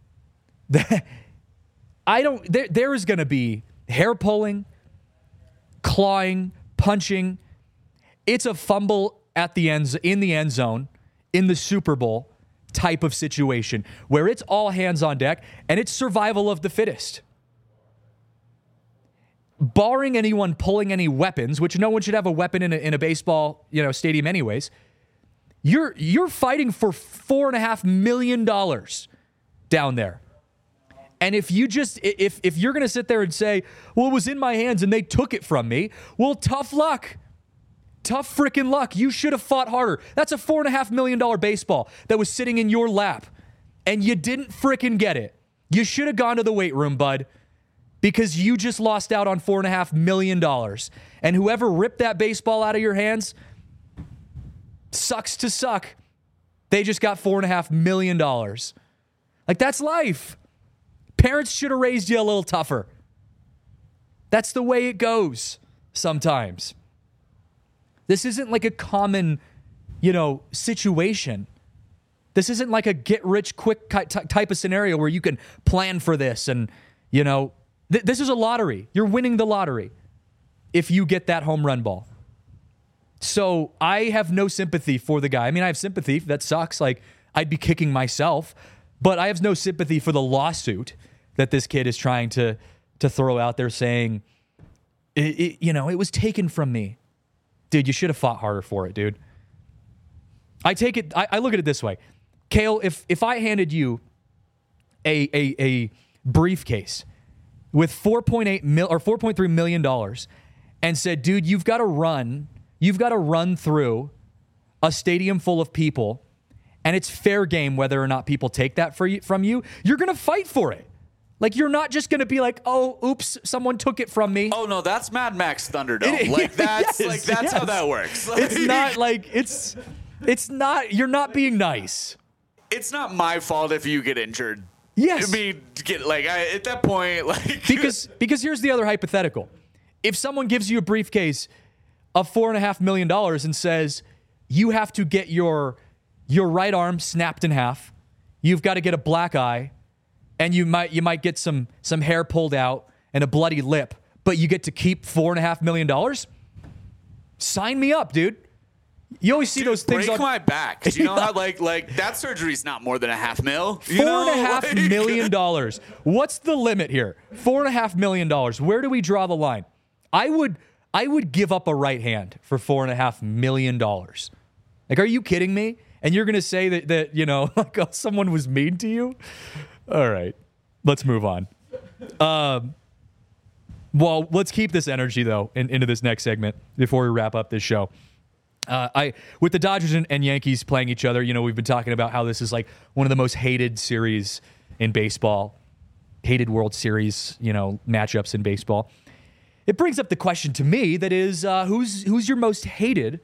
I don't, there, there is going to be hair pulling, clawing, punching. It's a fumble at the end, in the end zone, in the Super Bowl type of situation where it's all hands on deck and it's survival of the fittest. Barring anyone pulling any weapons, which no one should have a weapon in a, in a baseball, you know, stadium anyways, you're you're fighting for four and a half million dollars down there. And if you just if if you're gonna sit there and say, well, it was in my hands and they took it from me, well, tough luck. Tough freaking luck. You should have fought harder. That's a four and a half million dollar baseball that was sitting in your lap, and you didn't freaking get it. You should have gone to the weight room, bud, because you just lost out on four and a half million dollars. And whoever ripped that baseball out of your hands sucks to suck. They just got four and a half million dollars. Like, that's life. Parents should have raised you a little tougher. That's the way it goes sometimes. This isn't like a common, you know, situation. This isn't like a get-rich-quick type of scenario where you can plan for this. And, you know, th- this is a lottery. You're winning the lottery if you get that home run ball. So I have no sympathy for the guy. I mean, I have sympathy. That sucks. Like, I'd be kicking myself. But I have no sympathy for the lawsuit that this kid is trying to, to throw out there saying, it, it, you know, it was taken from me. Dude, you should have fought harder for it, dude. I take it, I, I look at it this way. Kale, if if I handed you a a, a briefcase with four point eight mil or four point three million dollars and said, dude, you've got to run, you've got to run through a stadium full of people, and it's fair game whether or not people take that for you, from you, you're gonna fight for it. Like, you're not just going to be like, oh, oops, someone took it from me. Oh no, that's Mad Max Thunderdome. It- like that's yes, like that's yes. how that works. It's not like it's it's not you're not being nice. It's not my fault if you get injured. Yes. I mean, get like I, at that point, like Because because here's the other hypothetical. If someone gives you a briefcase of four and a half million dollars and says you have to get your your right arm snapped in half, you've got to get a black eye, and you might you might get some some hair pulled out and a bloody lip, but you get to keep four and a half million dollars. Sign me up, dude. You always see Dude, those things break on my back. Do you know how like like that surgery's not more than a half mil? You Four know? and a half Like- million dollars. What's the limit here? Four and a half million dollars. Where do we draw the line? I would I would give up a right hand for four and a half million dollars. Like, are you kidding me? And you're gonna say that that you know like oh, someone was mean to you? All right, let's move on. Um, well, let's keep this energy though in, into this next segment before we wrap up this show. Uh, I with the Dodgers and, and Yankees playing each other, you know, we've been talking about how this is like one of the most hated series in baseball, hated World Series, you know, matchups in baseball. It brings up the question to me that is, uh, who's who's your most hated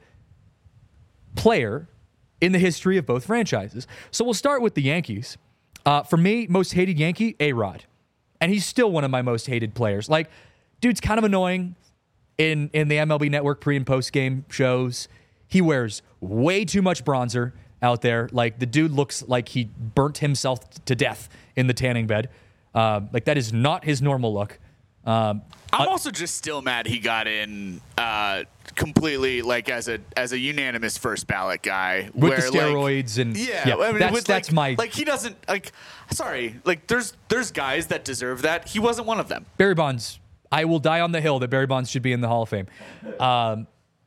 player in the history of both franchises? So we'll start with the Yankees. Uh, for me, most hated Yankee, A-Rod, and he's still one of my most hated players. Like, dude's kind of annoying in in the M L B Network pre and post game shows. He wears way too much bronzer out there. Like, the dude looks like he burnt himself to death in the tanning bed. Uh, like, that is not his normal look. Um, I'm uh, also just still mad he got in uh, completely like as a as a unanimous first ballot guy with where, the steroids like, and yeah, I mean, that's with, that's like, my like he doesn't like sorry like there's there's guys that deserve that. He wasn't one of them. Barry Bonds. I will die on the hill that Barry Bonds should be in the Hall of Fame. Um,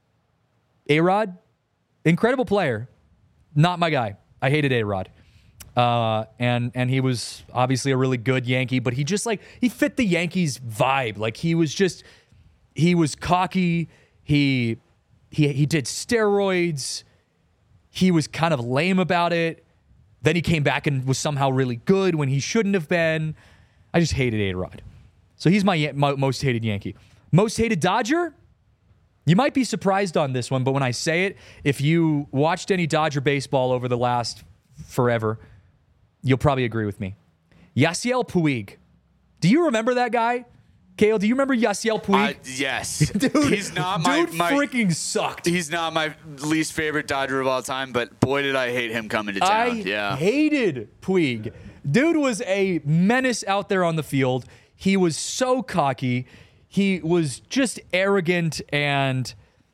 A-Rod, incredible player, not my guy. I hated A-Rod. Uh, and and he was obviously a really good Yankee, but he just like he fit the Yankees vibe. Like he was just he was cocky. He he he did steroids. He was kind of lame about it. Then he came back and was somehow really good when he shouldn't have been. I just hated A-Rod. So he's my, my most hated Yankee. Most hated Dodger? You might be surprised on this one, but when I say it, if you watched any Dodger baseball over the last forever, you'll probably agree with me. Yasiel Puig. Do you remember that guy? Kale, do you remember Yasiel Puig? Uh, yes, Dude, he's not my, dude my freaking sucked. he's not my least favorite Dodger of all time, but boy did I hate him coming to town. I yeah. hated Puig. Dude was a menace out there on the field. He was so cocky. He was just arrogant, and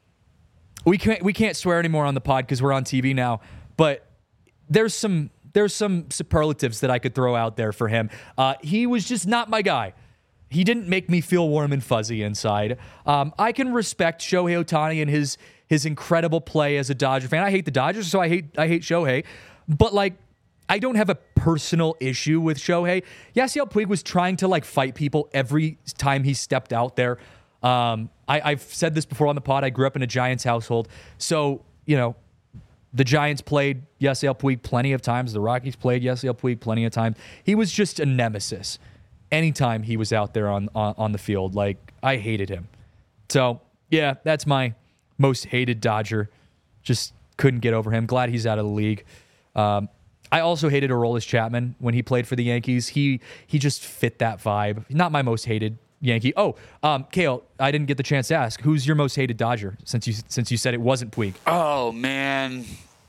we can't we can't swear anymore on the pod because we're on T V now. But there's some there's some superlatives that I could throw out there for him. Uh, he was just not my guy. He didn't make me feel warm and fuzzy inside. Um, I can respect Shohei Ohtani and his his incredible play as a Dodger fan. I hate the Dodgers, so I hate I hate Shohei. But like, I don't have a personal issue with Shohei. Yasiel Puig was trying to like fight people every time he stepped out there. Um, I, I've said this before on the pod. I grew up in a Giants household, so you know the Giants played Yasiel Puig plenty of times. The Rockies played Yasiel Puig plenty of times. He was just a nemesis anytime he was out there on, on on the field. Like, I hated him. So yeah, that's my most hated Dodger. Just couldn't get over him. Glad he's out of the league. Um, I also hated Aroldis Chapman when he played for the Yankees. He he just fit that vibe. Not my most hated Yankee. Oh, um, Kale, I didn't get the chance to ask. Who's your most hated Dodger? Since you since you said it wasn't Puig. Oh man.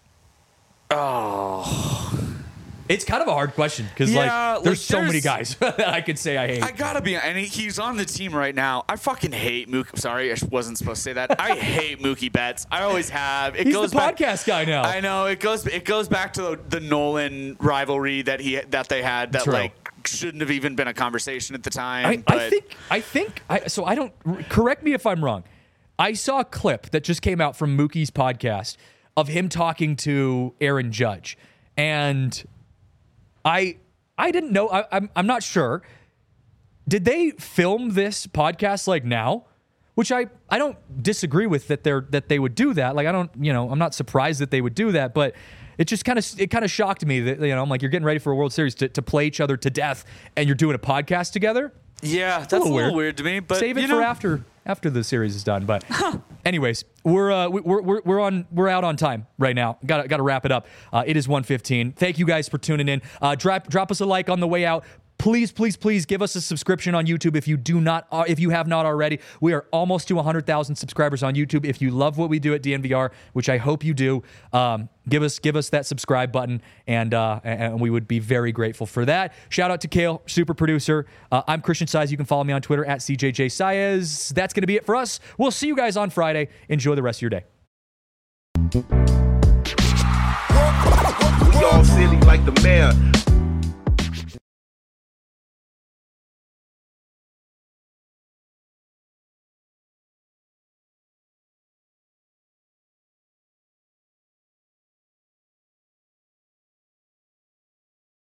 Oh. It's kind of a hard question because Yeah, like there's like, so many there's- guys that I could say I hate. I gotta be, and he- he's on the team right now. I fucking hate Mookie. Sorry, I wasn't supposed to say that. I hate Mookie Betts. I always have. It He's goes the back, podcast guy now. I know it goes. It goes back to the Nolan rivalry that he that they had. That True. like shouldn't have even been a conversation at the time. I, but I think I think I, so. I don't correct me if I'm wrong. I saw a clip that just came out from Mookie's podcast of him talking to Aaron Judge, and I I didn't know. I, I'm I'm not sure. Did they film this podcast like now, which I, I don't disagree with that they're that they would do that. Like I don't, you know, I'm not surprised that they would do that, but it just kind of it kind of shocked me that, you know, I'm like, you're getting ready for a World Series to, to play each other to death and you're doing a podcast together. Yeah, that's a little, a little weird. weird to me, but save it you for know. after after the series is done. But anyways, we're uh, we're we're we're on we're out on time right now. Got got to wrap it up. Uh, it is one fifteen. Thank you guys for tuning in. Uh, drop drop us a like on the way out. Please, please, please give us a subscription on YouTube if you do not, uh, if you have not already. We are almost to one hundred thousand subscribers on YouTube. If you love what we do at D N V R, which I hope you do, um, give us give us that subscribe button, and uh, and we would be very grateful for that. Shout out to Kale, super producer. Uh, I'm Christian Saez. You can follow me on Twitter at C J J Saez. That's going to be it for us. We'll see you guys on Friday. Enjoy the rest of your day. We all silly like the mayor.